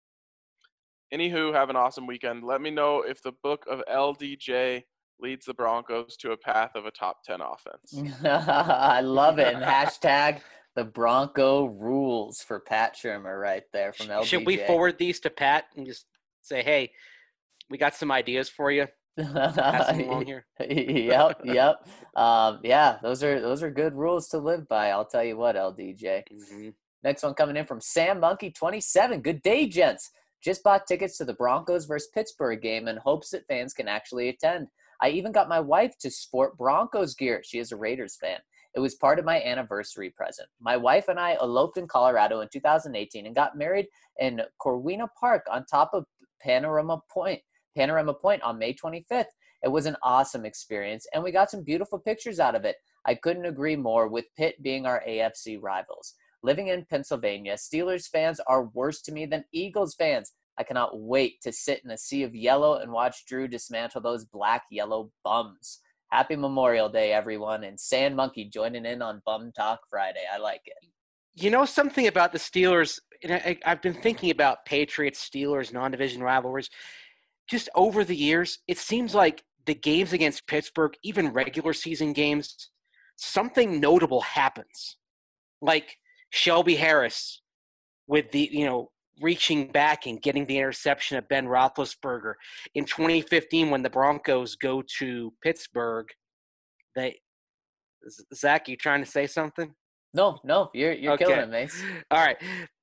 Anywho, have an awesome weekend. Let me know if the book of L D J leads the Broncos to a path of a top ten offense. I love it. And hashtag the Bronco rules for Pat Shermer right there from L D J. Should we forward these to Pat and just say, hey, we got some ideas for you? Pass them along here. Yep, yep. Um, yeah, those are those are good rules to live by. I'll tell you what, L D J. Mm-hmm. Next one coming in from Sam Monkey twenty-seven. Good day, gents. Just bought tickets to the Broncos versus Pittsburgh game in hopes that fans can actually attend. I even got my wife to sport Broncos gear. She is a Raiders fan. It was part of my anniversary present. My wife and I eloped in Colorado in two thousand eighteen and got married in Corwina Park on top of Panorama Point. Panorama Point on May twenty-fifth. It was an awesome experience, and we got some beautiful pictures out of it. I couldn't agree more with Pitt being our A F C rivals. Living in Pennsylvania, Steelers fans are worse to me than Eagles fans. I cannot wait to sit in a sea of yellow and watch Drew dismantle those black-yellow bums. Happy Memorial Day, everyone, and Sand Monkey joining in on Bum Talk Friday. I like it. You know something about the Steelers, and I, I've been thinking about Patriots, Steelers, non-division rivalries. Just over the years, it seems like the games against Pittsburgh, even regular season games, something notable happens. Like Shelby Harris with the, you know, reaching back and getting the interception of Ben Roethlisberger. In twenty fifteen, when the Broncos go to Pittsburgh, they – Zach, you trying to say something? No, no, you're you're Okay. killing it, Mace. All right.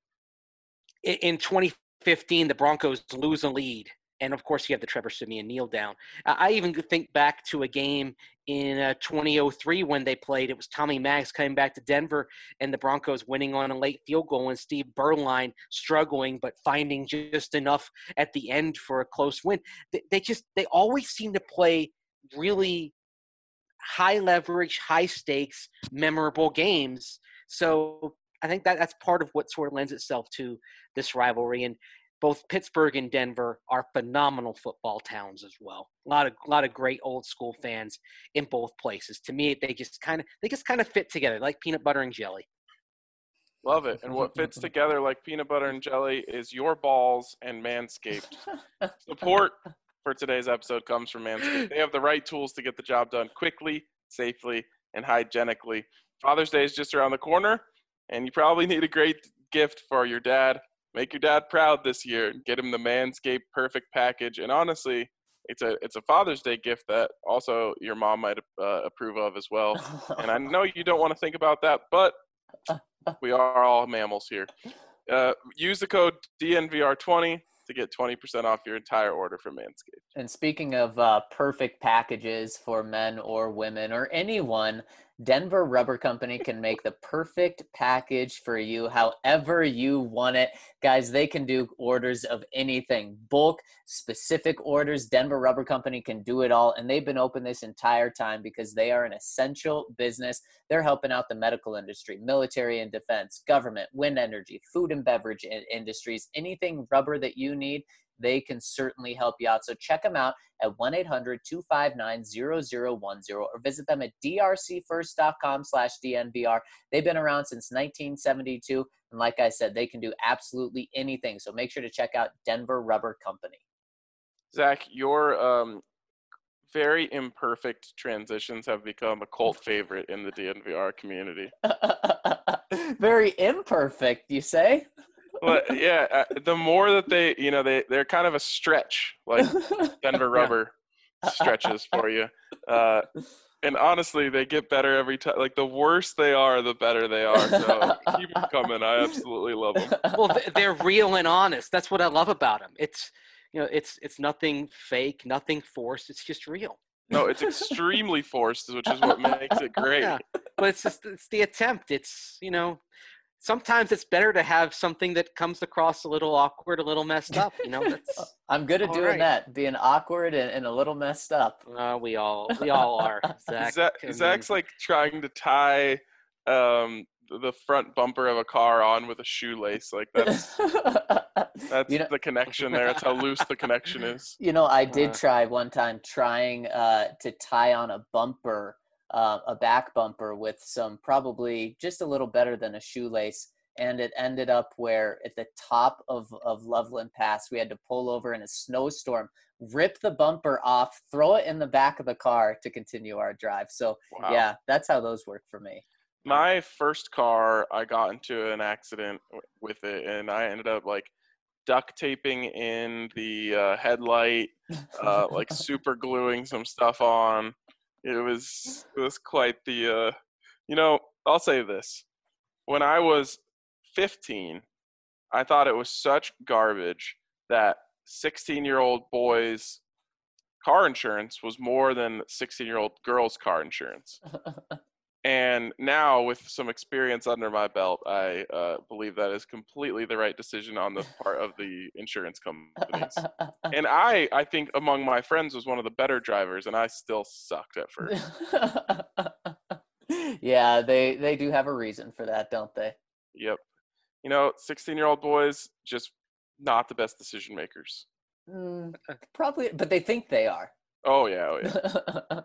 In, in twenty fifteen, the Broncos lose a lead. And, of course, you have the Trevor Siemian kneel down. I even think back to a game in uh, twenty oh three when they played. It was Tommy Maddox coming back to Denver and the Broncos winning on a late field goal and Steve Berline struggling but finding just enough at the end for a close win. They, they just – they always seem to play really high leverage, high stakes, memorable games. So I think that that's part of what sort of lends itself to this rivalry. And both Pittsburgh and Denver are phenomenal football towns as well. A lot of a lot of great old school fans in both places. To me, they just kind of they just kind of fit together like peanut butter and jelly. Love it. And what fits together like peanut butter and jelly is your balls and Manscaped. Support for today's episode comes from Manscaped. They have the right tools to get the job done quickly, safely, and hygienically. Father's Day is just around the corner, and you probably need a great gift for your dad. Make your dad proud this year. Get him the Manscaped Perfect Package. And honestly, it's a it's a Father's Day gift that also your mom might uh, approve of as well. And I know you don't want to think about that, but we are all mammals here. Uh, use the code D N V R twenty to get twenty percent off your entire order from Manscaped. And speaking of uh, perfect packages for men or women or anyone, Denver Rubber Company can make the perfect package for you however you want it. Guys, they can do orders of anything. Bulk, specific orders. Denver Rubber Company can do it all. And they've been open this entire time because they are an essential business. They're helping out the medical industry, military and defense, government, wind energy, food and beverage industries. Anything rubber that you need, they can certainly help you out. So check them out at one eight hundred two five nine zero zero one zero or visit them at d r c first dot com slash D N V R. They've been around since nineteen seventy-two. And like I said, they can do absolutely anything. So make sure to check out Denver Rubber Company. Zach, your um, very imperfect transitions have become a cult favorite in the D N V R community. Very imperfect, you say? But yeah, uh, the more that they, you know, they they're kind of a stretch, like Denver Rubber stretches for you. Uh, and honestly, they get better every time. Like the worse they are, the better they are. So keep them coming. I absolutely love them. Well, th- they're real and honest. That's what I love about them. It's, you know, it's it's nothing fake, nothing forced. It's just real. No, it's extremely forced, which is what makes it great. Yeah, but it's just it's the attempt. It's, you know, sometimes it's better to have something that comes across a little awkward, a little messed up. You know, that's I'm good at all doing right. that, being awkward and, and a little messed up. Uh, we all we all are. Zach, Zach, I mean, Zach's like trying to tie um, the front bumper of a car on with a shoelace. Like that's that's You know, the connection there. That's how loose the connection is. you know, I did Uh. try one time trying uh, to tie on a bumper, uh, a back bumper with some probably just a little better than a shoelace. And it ended up where at the top of, of Loveland Pass, we had to pull over in a snowstorm, rip the bumper off, throw it in the back of the car to continue our drive. So Wow. yeah, that's how those work for me. My first car, I got into an accident w- with it, and I ended up like duct taping in the uh, headlight, uh, like super gluing some stuff on. It was it was quite the, uh, you know. I'll say this: when I was fifteen, I thought it was such garbage that sixteen-year-old boys' car insurance was more than sixteen-year-old girls' car insurance. And now, with some experience under my belt, I uh, believe that is completely the right decision on the part of the insurance companies. And I, I think among my friends was one of the better drivers, and I still sucked at first. Yeah, they they do have a reason for that, don't they? Yep. You know, sixteen-year-old boys, just not the best decision makers. Mm, probably, but they think they are. Oh, yeah, oh, yeah.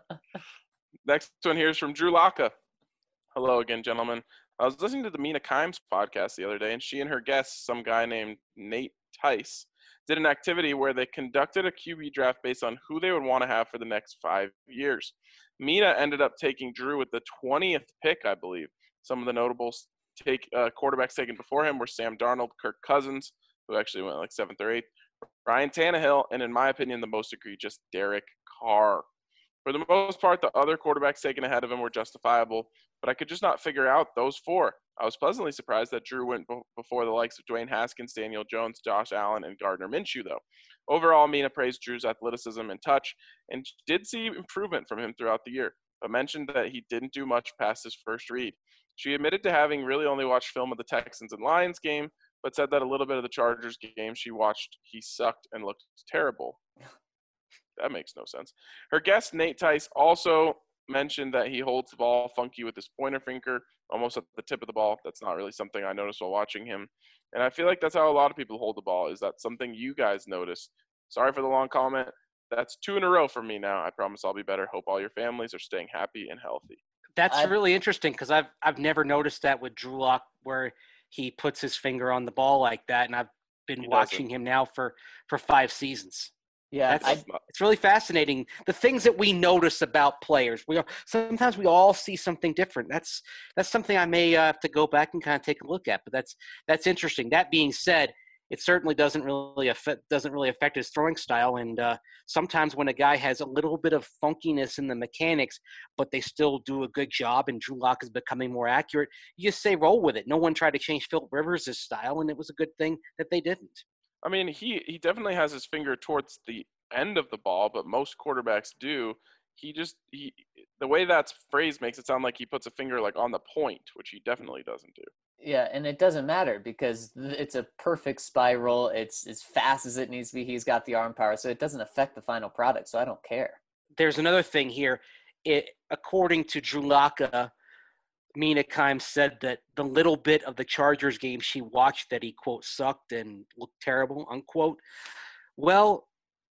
Next one here is from Drew Laka. Hello again, gentlemen. I was listening to the Mina Kimes podcast the other day, and she and her guest, some guy named Nate Tice, did an activity where they conducted a Q B draft based on who they would want to have for the next five years. Mina ended up taking Drew with the twentieth pick, I believe. Some of the notables take uh, quarterbacks taken before him were Sam Darnold, Kirk Cousins, who actually went like seventh or eighth, Ryan Tannehill, and in my opinion, the most egregious, Derek Carr. For the most part, the other quarterbacks taken ahead of him were justifiable, but I could just not figure out those four. I was pleasantly surprised that Drew went b- before the likes of Dwayne Haskins, Daniel Jones, Josh Allen, and Gardner Minshew, though. Overall, Mina praised Drew's athleticism and touch and did see improvement from him throughout the year, but mentioned that he didn't do much past his first read. She admitted to having really only watched film of the Texans and Lions game, but said that a little bit of the Chargers game she watched, he sucked and looked terrible. That makes no sense. Her guest, Nate Tice, also mentioned that he holds the ball funky with his pointer finger, almost at the tip of the ball. That's not really something I noticed while watching him. And I feel like that's how a lot of people hold the ball. Is that something you guys notice? Sorry for the long comment. That's two in a row for me now. I promise I'll be better. Hope all your families are staying happy and healthy. That's I've- really interesting because I've I've never noticed that with Drew Lock where he puts his finger on the ball like that, and I've been He watching him now for for five seasons. Yeah, That's I, That's not- It's really fascinating. The things that we notice about players. We are, sometimes we all see something different. That's that's something I may uh, have to go back and kind of take a look at. But that's that's interesting. That being said, it certainly doesn't really affect doesn't really affect his throwing style. And uh, sometimes when a guy has a little bit of funkiness in the mechanics, but they still do a good job, and Drew Lock is becoming more accurate, you just say roll with it. No one tried to change Philip Rivers' style, and it was a good thing that they didn't. I mean, he, he definitely has his finger towards the end of the ball, but most quarterbacks do. He just he the way that's phrased makes it sound like he puts a finger like on the point, which he definitely doesn't do. yeah, and it doesn't matter because th- it's a perfect spiral. It's as fast as it needs to be. He's got the arm power, so it doesn't affect the final product. So I don't care. There's another thing here. It, according to Drew Laka, Mina Kimes said that the little bit of the Chargers game she watched that he, quote, sucked and looked terrible, unquote. Well,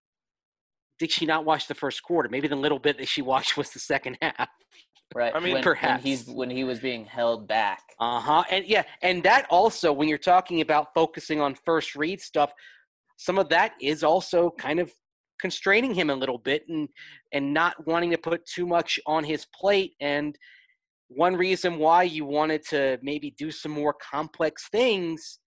did she not watch the first quarter? Maybe the little bit that she watched was the second half. Right. I mean, when, perhaps. when he's when he was being held back. Uh-huh. And yeah, and that also, when you're talking about focusing on first read stuff, some of that is also kind of constraining him a little bit and and not wanting to put too much on his plate. And one reason why you wanted to maybe do some more complex things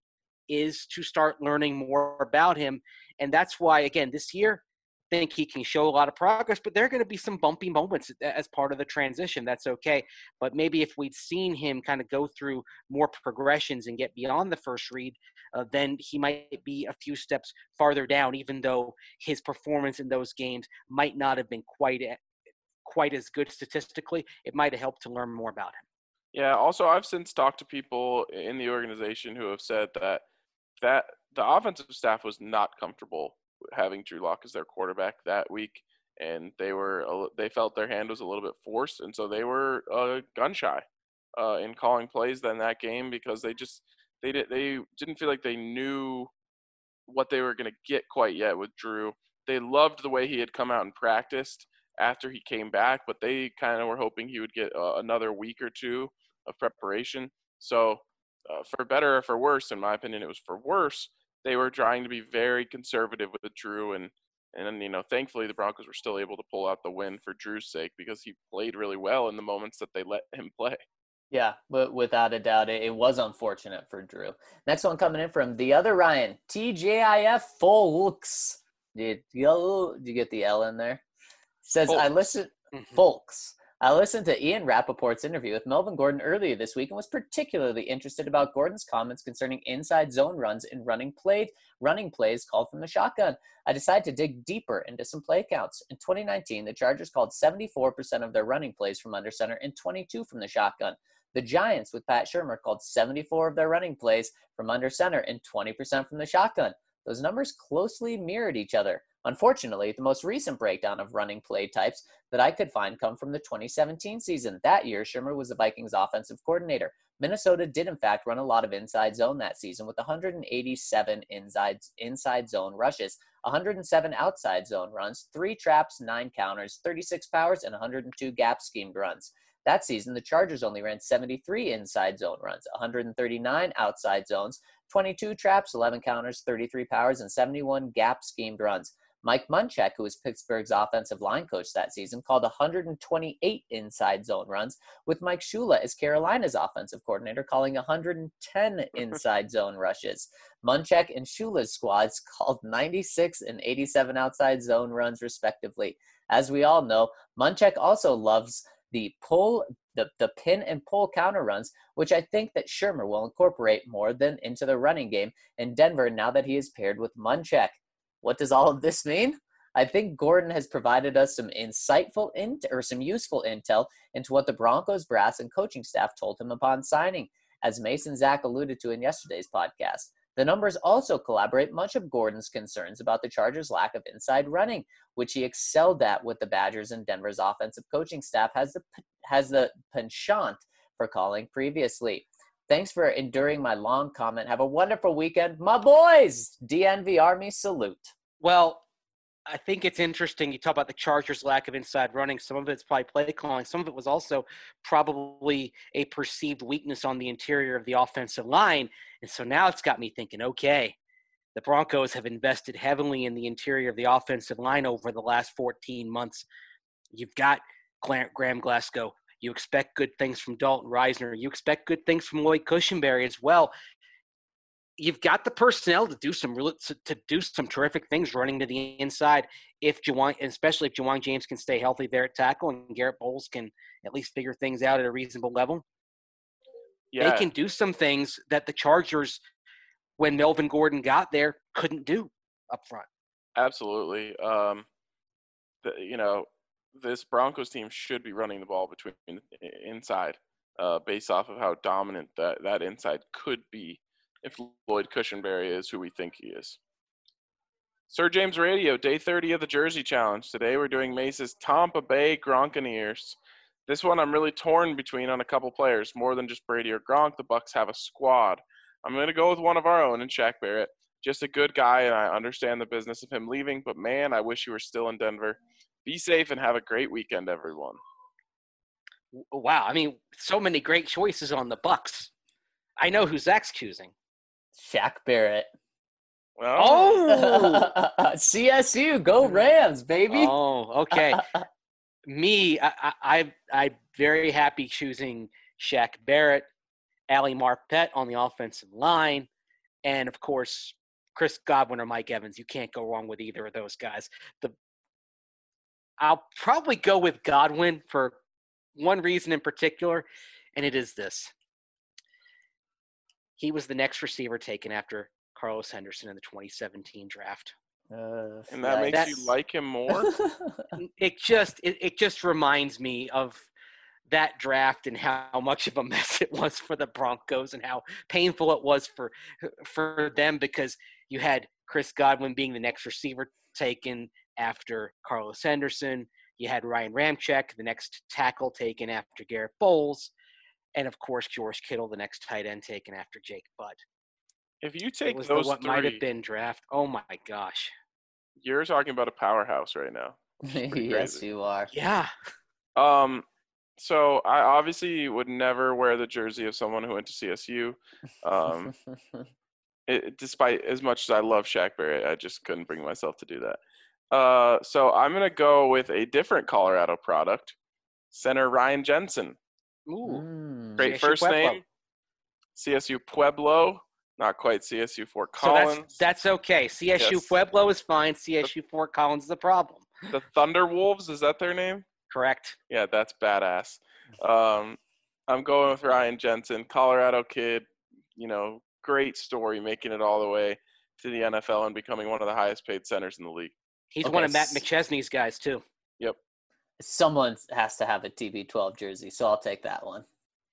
is to start learning more about him. And that's why, again, this year, I think he can show a lot of progress, but there are going to be some bumpy moments as part of the transition. That's okay. But maybe if we'd seen him kind of go through more progressions and get beyond the first read, uh, then he might be a few steps farther down, even though his performance in those games might not have been quite quite as good statistically. It might have helped to learn more about him. Yeah, also I've since talked to people in the organization who have said that that the offensive staff was not comfortable having Drew Lock as their quarterback that week, and they were they felt their hand was a little bit forced, and so they were uh, gun shy uh, in calling plays in that game because they just they did they didn't feel like they knew what they were going to get quite yet with Drew. They loved the way he had come out and practiced after he came back, but they kind of were hoping he would get uh, another week or two of preparation. So uh, for better or for worse, in my opinion, it was for worse. They were trying to be very conservative with Drew, and and you know, thankfully the Broncos were still able to pull out the win for Drew's sake because he played really well in the moments that they let him play. Yeah, but without a doubt, it, it was unfortunate for Drew. Next one coming in from the other Ryan, T J I F Folks. Did you, did you get the L in there? Says, Folks. I listened, Mhm. Folks. I listened to Ian Rappaport's interview with Melvin Gordon earlier this week and was particularly interested about Gordon's comments concerning inside zone runs and running play, running plays called from the shotgun. I decided to dig deeper into some play counts. In twenty nineteen, the Chargers called seventy-four percent of their running plays from under center and twenty-two from the shotgun. The Giants, with Pat Shurmur, called seventy-four of their running plays from under center and twenty percent from the shotgun. Those numbers closely mirrored each other. Unfortunately, the most recent breakdown of running play types that I could find come from the twenty seventeen season. That year, Shurmur was the Vikings' offensive coordinator. Minnesota did, in fact, run a lot of inside zone that season with one hundred eighty-seven inside, inside zone rushes, one hundred seven outside zone runs, three traps, nine counters, thirty-six powers, and one hundred two gap schemed runs. That season, the Chargers only ran seventy-three inside zone runs, one hundred thirty-nine outside zones, twenty-two traps, eleven counters, thirty-three powers, and seventy-one gap schemed runs. Mike Munchak, who was Pittsburgh's offensive line coach that season, called one hundred twenty-eight inside zone runs, with Mike Shula as Carolina's offensive coordinator calling one hundred ten inside zone rushes. Munchak and Shula's squads called ninety-six and eighty-seven outside zone runs, respectively. As we all know, Munchak also loves the pull, the, the pin and pull counter runs, which I think that Shurmur will incorporate more than into the running game in Denver now that he is paired with Munchak. What does all of this mean? I think Gordon has provided us some insightful int- or some useful intel into what the Broncos brass and coaching staff told him upon signing, as Mason Zach alluded to in yesterday's podcast. The numbers also corroborate much of Gordon's concerns about the Chargers' lack of inside running, which he excelled at with the Badgers, and Denver's offensive coaching staff has the has the penchant for calling previously. Thanks for enduring my long comment. Have a wonderful weekend. My boys, D N V Army, salute. Well, I think it's interesting. You talk about the Chargers' lack of inside running. Some of it's probably play calling. Some of it was also probably a perceived weakness on the interior of the offensive line. And so now it's got me thinking, okay, the Broncos have invested heavily in the interior of the offensive line over the last fourteen months. You've got Graham Glasgow. You expect good things from Dalton Reisner. You expect good things from Lloyd Cushenberry as well. You've got the personnel to do some real, to, to do some terrific things running to the inside. If Juwan, especially if Juwan James can stay healthy there at tackle, and Garrett Bowles can at least figure things out at a reasonable level, yeah. They can do some things that the Chargers, when Melvin Gordon got there, couldn't do up front. Absolutely. Um, the, you know, this Broncos team should be running the ball between inside, uh, based off of how dominant that, that inside could be if Lloyd Cushenberry is who we think he is. Sir James Radio, day thirty of the Jersey Challenge. Today we're doing Mace's Tampa Bay Gronkaneers. This one I'm really torn between on a couple players. More than just Brady or Gronk, the Bucs have a squad. I'm going to go with one of our own in Shaq Barrett. Just a good guy, and I understand the business of him leaving, but man, I wish he were still in Denver. Be safe and have a great weekend, everyone. Wow, I mean, so many great choices on the Bucs. I know who Zach's choosing. Shaq Barrett. Well, oh! C S U, go Rams, baby. Oh, okay. Me, I, I, I'm very happy choosing Shaq Barrett, Ali Marpet on the offensive line, and of course, Chris Godwin or Mike Evans. You can't go wrong with either of those guys. The I'll probably go with Godwin for one reason in particular, and it is this. He was the next receiver taken after Carlos Henderson in the twenty seventeen draft. Uh, And that makes That's- you like him more? It just it, it just reminds me of that draft and how much of a mess it was for the Broncos and how painful it was for for them because you had Chris Godwin being the next receiver taken after Carlos Henderson. You had Ryan Ramczyk, the next tackle taken after Garrett Bowles. And, of course, George Kittle, the next tight end taken after Jake Butt. If you It take was those the, what three, might have been draft. Oh, my gosh. you're talking about a powerhouse right now. pretty yes, crazy. you are. Yeah. Um, so I obviously would never wear the jersey of someone who went to C S U. Um, it, despite as much as I love Shaq Barrett, I just couldn't bring myself to do that. Uh, so I'm gonna go with a different Colorado product, center Ryan Jensen. Ooh. Mm. Great C S U first Pueblo. name. C S U Pueblo, not quite C S U Fort So Collins. that's that's okay. C S U Yes. Pueblo is fine. C S U Fort Collins is the problem. The Thunderwolves, is that their name? Correct. Yeah, that's badass. Um, I'm going with Ryan Jensen, Colorado kid. You know, great story, making it all the way to the N F L and becoming one of the highest paid centers in the league. He's Okay, one of Matt s- McChesney's guys, too. Yep. Someone has to have a T B twelve jersey, so I'll take that one.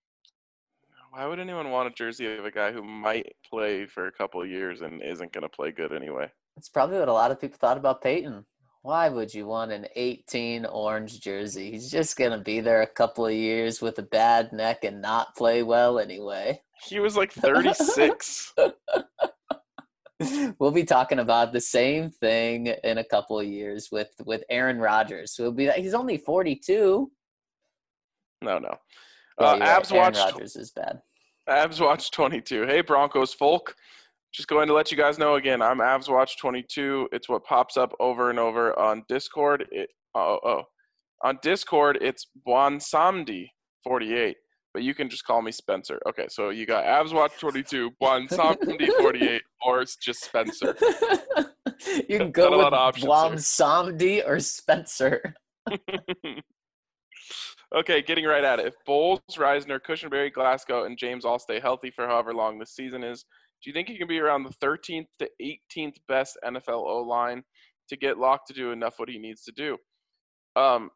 Why would anyone want a jersey of a guy who might play for a couple of years and isn't going to play good anyway? That's probably what a lot of people thought about Peyton. Why would you want an eighteen orange jersey? He's just going to be there a couple of years with a bad neck and not play well anyway. He was like thirty-six. We'll be talking about the same thing in a couple of years with, with Aaron Rodgers. We'll be he's only forty-two. No, no. Yeah, Uh, you're Abs right. Aaron watched Rodgers is bad. Abs Watch twenty-two. Hey, Broncos folk. Just going to let you guys know again, I'm Avs Watch twenty-two. It's what pops up over and over on Discord. It, oh, oh. On Discord, it's Bwansamdi forty-eight, but you can just call me Spencer. Okay, so you got Avs Watch twenty-two, Bwansamdi forty-eight, or it's just Spencer. You can Got go a lot with of options Blom here. Samdi or Spencer. Okay, getting right at it. If Bowles, Reisner, Cushenberry, Glasgow, and James all stay healthy for however long this season is, do you think he can be around the thirteenth to eighteenth best N F L O-line to get Locke to do enough what he needs to do? Um,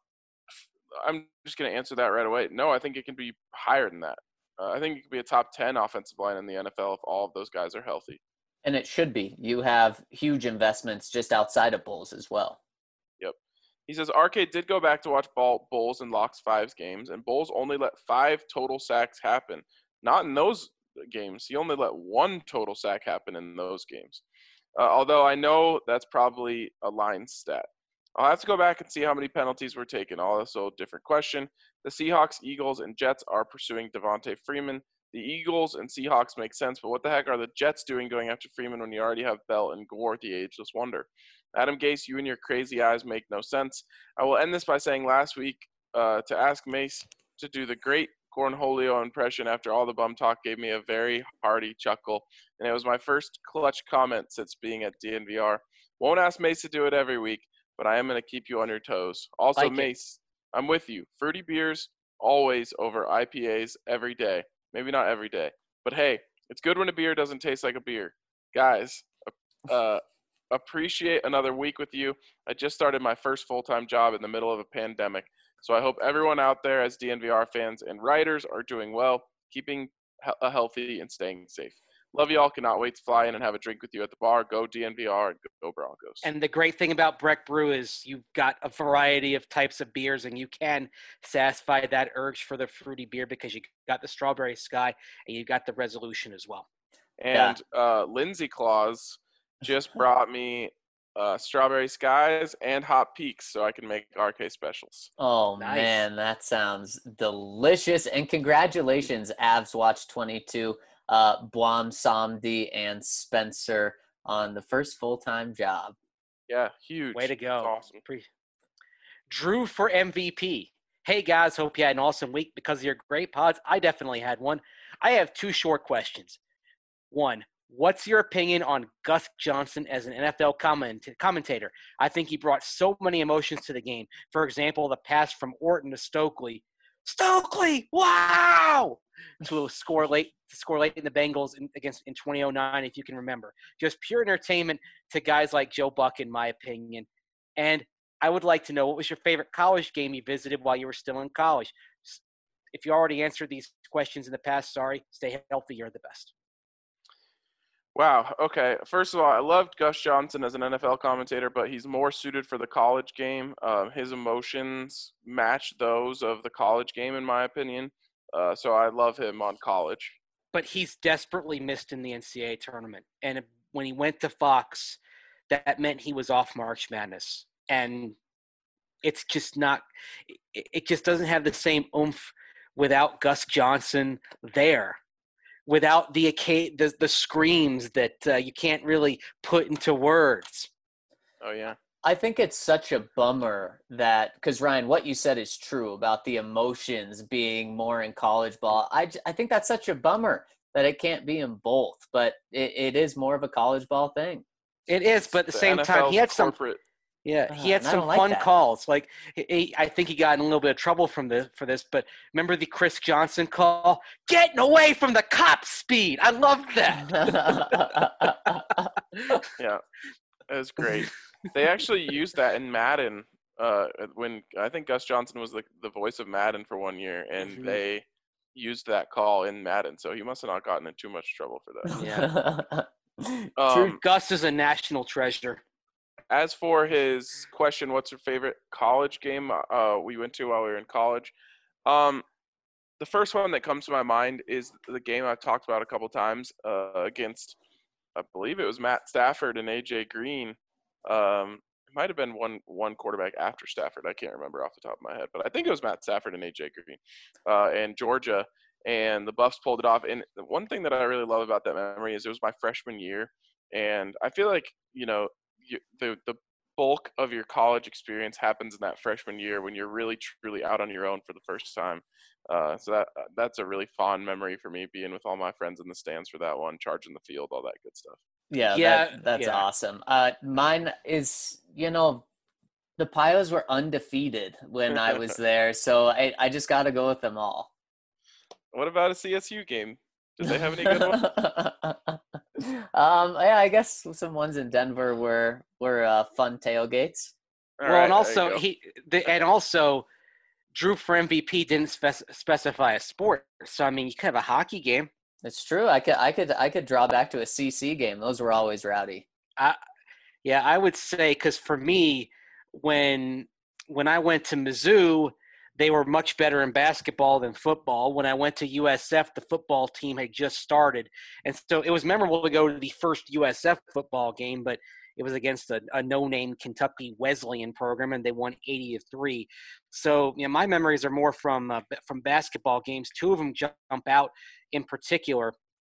I'm just going to answer that right away. No, I think it can be higher than that. Uh, I think it could be a top ten offensive line in the N F L if all of those guys are healthy. And it should be. You have huge investments just outside of Bulls as well. He says, Arcade did go back to watch Ball, Bulls and Locke's fives games, and Bulls only let five total sacks happen. Not in those games. He only let one total sack happen in those games. Uh, although I know that's probably a line stat. I'll have to go back and see how many penalties were taken. Also, a different question. The Seahawks, Eagles, and Jets are pursuing Devontae Freeman. The Eagles and Seahawks make sense, but what the heck are the Jets doing going after Freeman when you already have Bell and Gore, the ageless wonder? Adam Gase, you and your crazy eyes make no sense. I will end this by saying last week uh, to ask Mace to do the great Cornholio impression after all the bum talk gave me a very hearty chuckle, and it was my first clutch comment since being at D N V R. Won't ask Mace to do it every week, but I am going to keep you on your toes. Also, Like it. Mace, I'm with you. Fruity beers always over I P As every day. Maybe not every day, but hey, it's good when a beer doesn't taste like a beer. Guys, uh, appreciate another week with you. I just started my first full-time job in the middle of a pandemic, so I hope everyone out there as D N V R fans and writers are doing well, keeping he- healthy and staying safe. Love you all. Cannot wait to fly in and have a drink with you at the bar. Go D N V R and go Broncos. And the great thing about Breck Brew is you've got a variety of types of beers, and you can satisfy that urge for the fruity beer because you got the Strawberry Sky and you got the Resolution as well. And uh, Lindsay Claus just brought me uh, Strawberry Skies and Hot Peaks so I can make R K specials. Oh, Nice. man, that sounds delicious. And congratulations, Avs Watch twenty-two, uh, Blom Samdi, and Spencer on the first full-time job. Yeah, huge. Way to go. That's awesome. Pre- Drew for M V P. Hey, guys, hope you had an awesome week because of your great pods. I definitely had one. I have two short questions. One, What's your opinion on Gus Johnson as an N F L comment- commentator? I think he brought so many emotions to the game. For example, the pass from Orton to Stokely. Stokely, wow! To score late, to score late in the Bengals in, against in twenty oh nine, if you can remember. Just pure entertainment to guys like Joe Buck, in my opinion. And I would like to know, what was your favorite college game you visited while you were still in college? If you already answered these questions in the past, sorry. Stay healthy. You're the best. Wow. Okay. First of all, I loved Gus Johnson as an N F L commentator, but he's more suited for the college game. Um, his emotions match those of the college game, in my opinion. Uh, so I love him on college. But he's desperately missed in the N C double A tournament. And when he went to Fox, that meant he was off March Madness. And it's just not – it just doesn't have the same oomph without Gus Johnson there. Without the the, the screams that uh, you can't really put into words. Oh, yeah. I think it's such a bummer that – because, Ryan, what you said is true about the emotions being more in college ball. I, I think that's such a bummer that it can't be in both, but it, it is more of a college ball thing. It is, but at the, the same N F L's time, he had some corporate. – Yeah, he had uh, some like fun that. calls. Like he, I think he got in a little bit of trouble from the for this. But remember the Chris Johnson call? Getting away from the cop speed. I love that. Yeah, it was great. They actually used that in Madden uh, when I think Gus Johnson was the the voice of Madden for one year, and Mhm. they used that call in Madden. So he must have not gotten in too much trouble for that. Yeah. True. Um, Gus is a national treasure. As for his question, what's your favorite college game uh, we went to while we were in college? Um, the first one that comes to my mind is the game I've talked about a couple times uh, against, I believe it was Matt Stafford and A J Green. Um, it might have been one one quarterback after Stafford. I can't remember off the top of my head, but I think it was Matt Stafford and A J Green uh, and Georgia. And the Buffs pulled it off. And the one thing that I really love about that memory is it was my freshman year. And I feel like, you know, you, the the bulk of your college experience happens in that freshman year when you're really truly out on your own for the first time. Uh, so that that's a really fond memory for me, being with all my friends in the stands for that one, charging the field, all that good stuff. Yeah, Yeah, that, that's yeah. awesome. Uh, mine is, you know, the Pios were undefeated when I was there, so I, I just got to go with them all. What about a C S U game? Did they have any good ones? um, yeah, I guess some ones in Denver were were uh, fun tailgates. All well, right, and there also you go. he the, and also Drew for M V P didn't spec- specify a sport. So I mean, you could have a hockey game. It's true. I could I could I could draw back to a C C game. Those were always rowdy. I, yeah, I would say, because for me, when when I went to Mizzou, they were much better in basketball than football. When I went to U S F, the football team had just started. And so it was memorable to go to the first U S F football game, but it was against a, a no-name Kentucky Wesleyan program, and they won eighty to three. So, you know, my memories are more from uh, from basketball games. Two of them jump out in particular.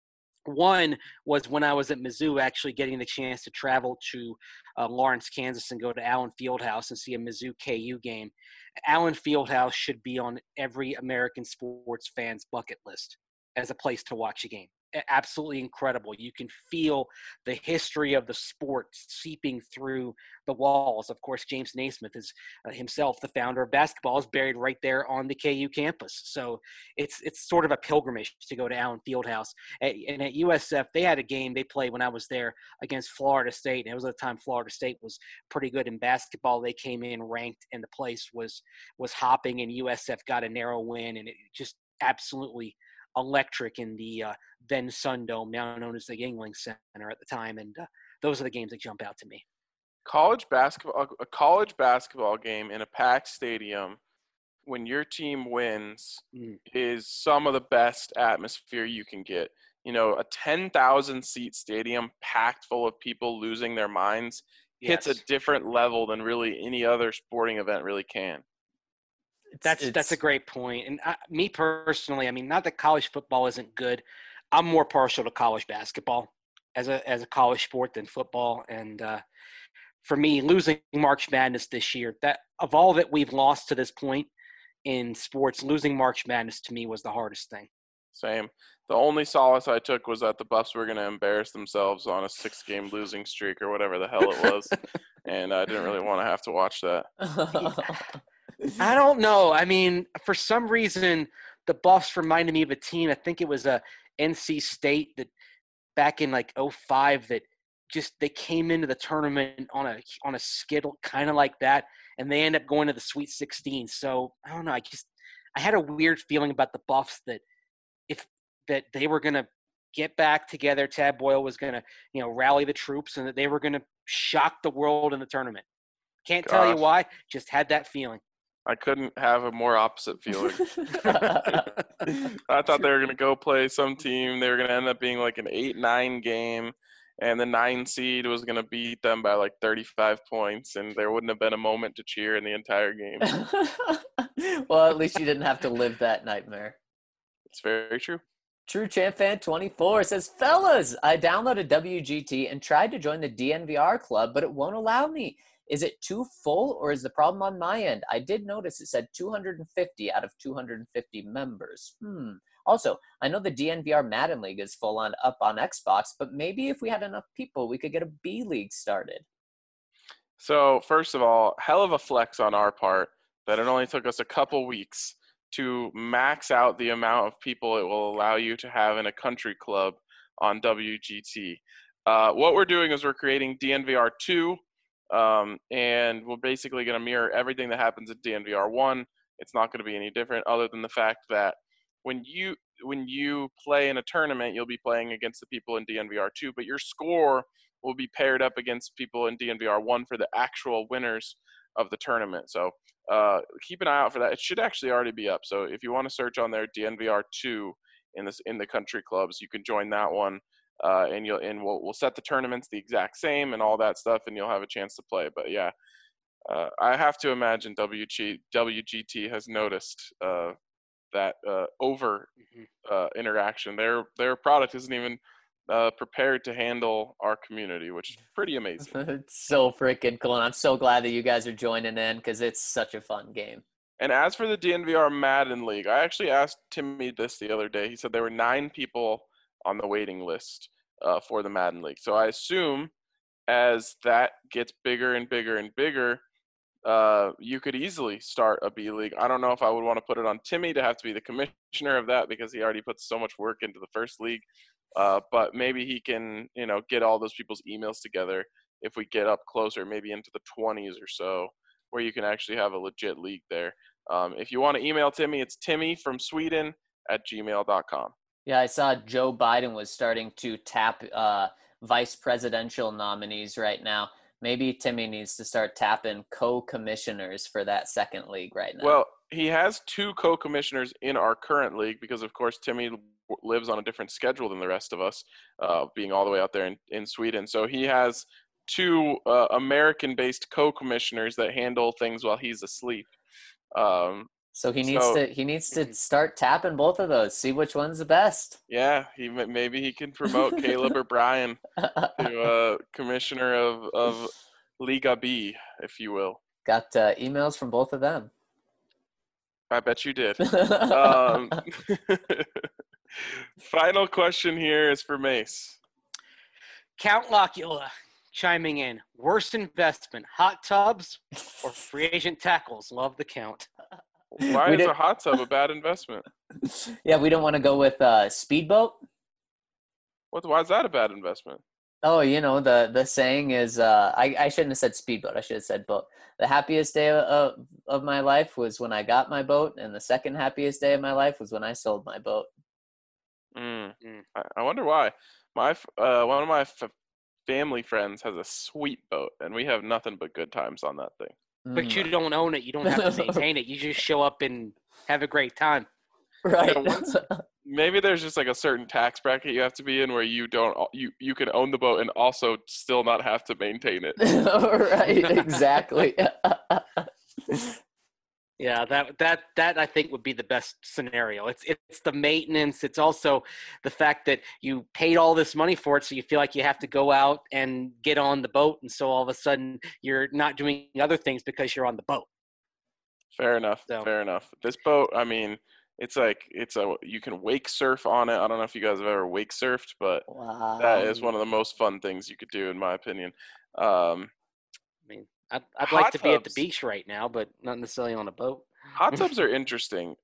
One was when I was at Mizzou, actually getting the chance to travel to uh, Lawrence, Kansas, and go to Allen Fieldhouse and see a Mizzou K U game. Allen Fieldhouse should be on every American sports fan's bucket list as a place to watch a game. Absolutely incredible. You can feel the history of the sport seeping through the walls. Of course, James Naismith is uh, himself the founder of basketball, is buried right there on the K U campus. So it's it's sort of a pilgrimage to go to Allen Fieldhouse. At, and at U S F, they had a game they played when I was there against Florida State. And it was at the time Florida State was pretty good in basketball. They came in ranked, and the place was was hopping, and U S F got a narrow win, and it just absolutely electric in the uh, then Sun Dome, now known as the Yuengling Center at the time. And uh, those are the games that jump out to me. College basketball, a college basketball game in a packed stadium when your team wins Mm. is some of the best atmosphere you can get. You know, a ten thousand seat stadium packed full of people losing their minds hits Yes. a different level than really any other sporting event really can. It's, That's it's, that's a great point. And I, me personally, I mean, not that college football isn't good. I'm more partial to college basketball as a as a college sport than football. And uh, for me, losing March Madness this year, that of all that we've lost to this point in sports, losing March Madness to me was the hardest thing. Same. The only solace I took was that the Buffs were going to embarrass themselves on a six-game losing streak or whatever the hell it was, and I didn't really want to have to watch that. I don't know. I mean, for some reason, the Buffs reminded me of a team. I think it was a N C State that back in like oh five that just they came into the tournament on a on a skittle, kind of like that, and they end up going to the Sweet sixteen. So I don't know. I just I had a weird feeling about the Buffs that if that they were going to get back together, Tad Boyle was going to, you know, rally the troops, and that they were going to shock the world in the tournament. Can't tell you Gosh. why, just had that feeling. I couldn't have a more opposite feeling. I thought they were going to go play some team. They were going to end up being like an eight nine game, and the nine seed was going to beat them by like thirty-five points, and there wouldn't have been a moment to cheer in the entire game. Well, at least you didn't have to live that nightmare. It's very true. True Champ Fan twenty-four says, fellas, I downloaded W G T and tried to join the D N V R club, but it won't allow me. Is it too full, or is the problem on my end? I did notice it said two hundred fifty out of two hundred fifty members. Hmm. Also, I know the D N V R Madden League is full on up on Xbox, but maybe if we had enough people, we could get a B League started. So, first of all, hell of a flex on our part that it only took us a couple weeks to max out the amount of people it will allow you to have in a country club on W G T. Uh, what we're doing is we're creating D N V R two, um, and we're basically going to mirror everything that happens at D N V R one. It's not going to be any different other than the fact that when you when you play in a tournament, you'll be playing against the people in D N V R two, but your score will be paired up against people in D N V R one for the actual winners of the tournament. So uh, keep an eye out for that. It should actually already be up. So if you want to search on there D N V R two in this in the country clubs, you can join that one, uh, and you'll and we'll we'll set the tournaments the exact same and all that stuff, and you'll have a chance to play. But yeah, uh, I have to imagine W G W G T has noticed uh, that uh, over uh, interaction. Their their product isn't even uh, prepared to handle our community, which is pretty amazing. It's so freaking cool, and I'm so glad that you guys are joining in because it's such a fun game. And as for the D N V R Madden League, I actually asked Timmy this the other day. He said there were nine people on the waiting list uh, for the Madden League. So I assume as that gets bigger and bigger and bigger, uh, you could easily start a B League. I don't know if I would want to put it on Timmy to have to be the commissioner of that because he already puts so much work into the first league. Uh, but maybe he can, you know, get all those people's emails together if we get up closer, maybe into the twenties or so, where you can actually have a legit league there. Um, if you want to email Timmy, it's Timmy from Sweden at gmail dot com. Yeah, I saw Joe Biden was starting to tap uh, vice presidential nominees right now. Maybe Timmy needs to start tapping co-commissioners for that second league right now. Well, he has two co-commissioners in our current league because, of course, Timmy lives on a different schedule than the rest of us, uh, being all the way out there in, in Sweden. So he has two uh, American-based co-commissioners that handle things while he's asleep. Um, so he needs so, to he needs to start tapping both of those, see which one's the best. Yeah, he maybe he can promote Caleb or Brian to uh, commissioner of, of Liga B, if you will. Got uh, emails from both of them. I bet you did. um, final question here is for Mace. Count Locula chiming in. Worst investment, hot tubs or free agent tackles? Love the count. Why We is did- a hot tub a bad investment? Yeah, we don't want to go with uh, speedboat. What? Why is that a bad investment? Oh, you know, the the saying is, uh, I, I shouldn't have said speedboat. I should have said boat. The happiest day of, of my life was when I got my boat, and the second happiest day of my life was when I sold my boat. Mm. Mm. I, I wonder why. My f- uh, one of my f- family friends has a sweet boat, and we have nothing but good times on that thing. But Mm, you don't own it. You don't have to maintain it. You just show up and have a great time. right. Yeah, once- Maybe there's just like a certain tax bracket you have to be in where you don't you you can own the boat and also still not have to maintain it. Right, exactly. Yeah, that that that I think would be the best scenario. It's it's the maintenance. It's also the fact that you paid all this money for it, so you feel like you have to go out and get on the boat, and so all of a sudden you're not doing other things because you're on the boat. Fair enough. So- Fair enough. This boat, I mean, It's like it's a you can wake surf on it. I don't know if you guys have ever wake surfed, but Wow. that is one of the most fun things you could do, in my opinion. Um, I mean, I'd, I'd Hot like to be at the tubs. beach right now, but not necessarily on a boat. hot tubs are interesting.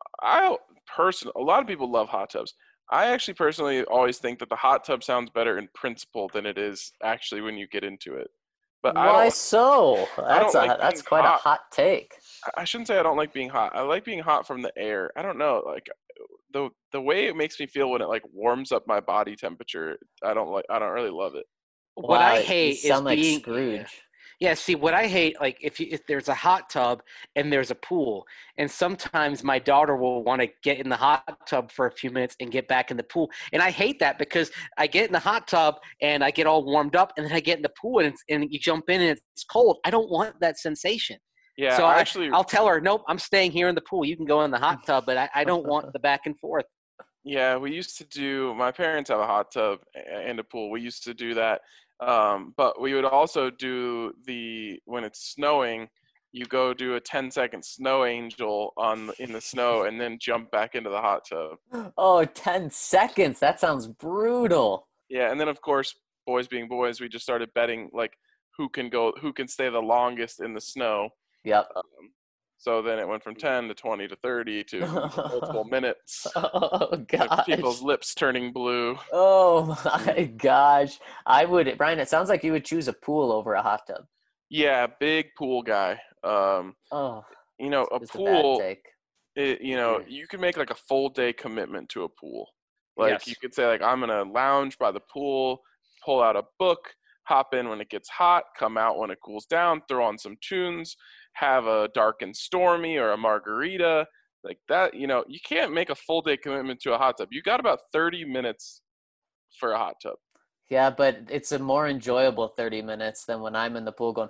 I person a lot of people love hot tubs. I actually personally always think that the hot tub sounds better in principle than it is actually when you get into it. But I Why don't. so? That's don't a like that's being quite hot. a hot take. I shouldn't say I don't like being hot. I like being hot from the air. I don't know, like the the way it makes me feel when it like warms up my body temperature. I don't like. I don't really love it. What I Wow, hate you is sound like being Scrooge. Yeah, see, what I hate, like, if you, if there's a hot tub and there's a pool, and sometimes my daughter will want to get in the hot tub for a few minutes and get back in the pool, and I hate that because I get in the hot tub and I get all warmed up, and then I get in the pool and, it's, and you jump in and it's cold. I don't want that sensation. Yeah, so I I, actually. I'll tell her, nope, I'm staying here in the pool. You can go in the hot tub, but I, I don't want the back and forth. Yeah, we used to do. My parents have a hot tub and a pool. We used to do that. Um, but we would also do the when it's snowing, you go do a ten second snow angel on in the snow and then jump back into the hot tub. Oh, ten seconds. That sounds brutal. Yeah, and then of course, boys being boys, we just started betting like who can go, who can stay the longest in the snow. Yep. Um, so then it went from ten to twenty to thirty to multiple minutes. Oh gosh. People's lips turning blue. Oh my gosh. I would, Brian, it sounds like you would choose a pool over a hot tub. Yeah, big pool guy. Um, Oh, you know, a just a pool. bad take. It, you know, Yeah. you can make like a full day commitment to a pool. Like Yes. you could say like I'm gonna lounge by the pool, pull out a book, hop in when it gets hot, come out when it cools down, throw on some tunes, have a dark and stormy or a margarita. Like that, you know, you can't make a full day commitment to a hot tub. You got about thirty minutes for a hot tub. Yeah, but it's a more enjoyable thirty minutes than when I'm in the pool going.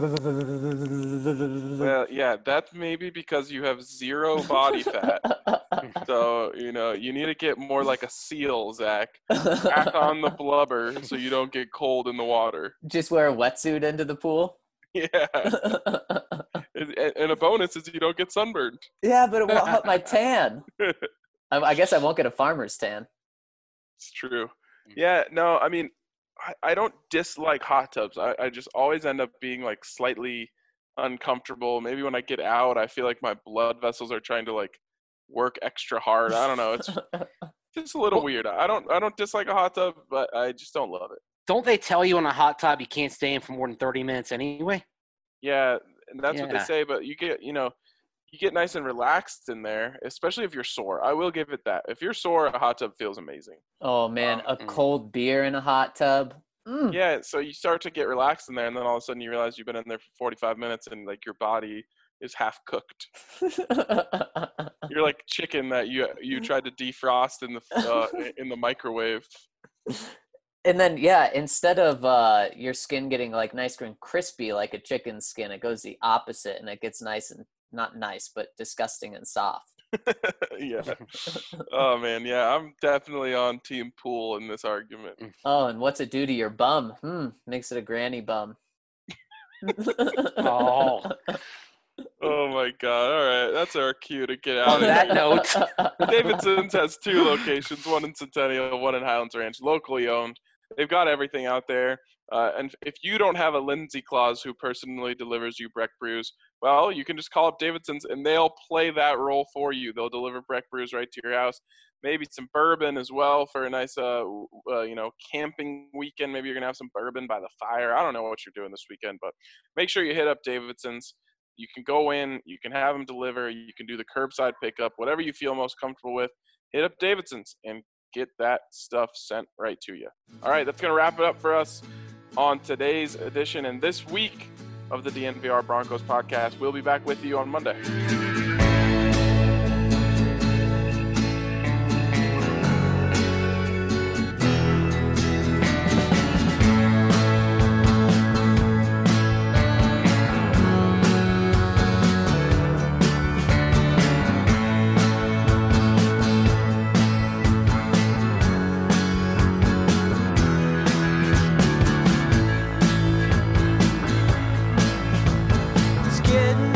Well, yeah, that's maybe because you have zero body fat. So, you know, you need to get more like a seal, Zach. Back on the blubber so you don't get cold in the water. Just wear a wetsuit into the pool. Yeah. and, and a bonus is you don't get sunburned. Yeah, but it won't help my tan. I, I guess I won't get a farmer's tan. It's true. Yeah, no, I mean, I, I don't dislike hot tubs. I, I just always end up being like slightly uncomfortable. Maybe when I get out, I feel like my blood vessels are trying to like work extra hard. I don't know. It's just a little weird. I don't I don't dislike a hot tub, but I just don't love it. Don't they tell you in a hot tub you can't stay in for more than thirty minutes anyway? Yeah, and that's what they Yeah. say, but you get, you know, you get nice and relaxed in there, especially if you're sore. I will give it that. If you're sore, a hot tub feels amazing. Oh man, a Mm. cold beer in a hot tub. Mm. Yeah, so you start to get relaxed in there, and then all of a sudden you realize you've been in there for forty-five minutes, and like your body is half cooked. You're like chicken that you you tried to defrost in the uh, in the microwave. And then yeah, instead of uh, your skin getting like nice and crispy like a chicken's skin, it goes the opposite, and it gets nice and not nice, but disgusting and soft. Yeah. Oh man, yeah, I'm definitely on team pool in this argument. Oh, and what's it do to your bum? Hmm, makes it a granny bum. Oh. Oh my god! All right, that's our cue to get On out of that here. note, Davidson's has two locations, one in Centennial, one in Highlands Ranch, locally owned. They've got everything out there. Uh, and if you don't have a Lindsay Claus who personally delivers you Breck brews, well, you can just call up Davidson's and they'll play that role for you. They'll deliver Breck brews right to your house. Maybe some bourbon as well for a nice, uh, uh, you know, camping weekend. Maybe you're going to have some bourbon by the fire. I don't know what you're doing this weekend, but make sure you hit up Davidson's. You can go in, you can have them deliver, you can do the curbside pickup, whatever you feel most comfortable with. Hit up Davidson's and get that stuff sent right to you. All right, that's going to wrap it up for us on today's edition and this week of the D N V R Broncos podcast. We'll be back with you on Monday. It's getting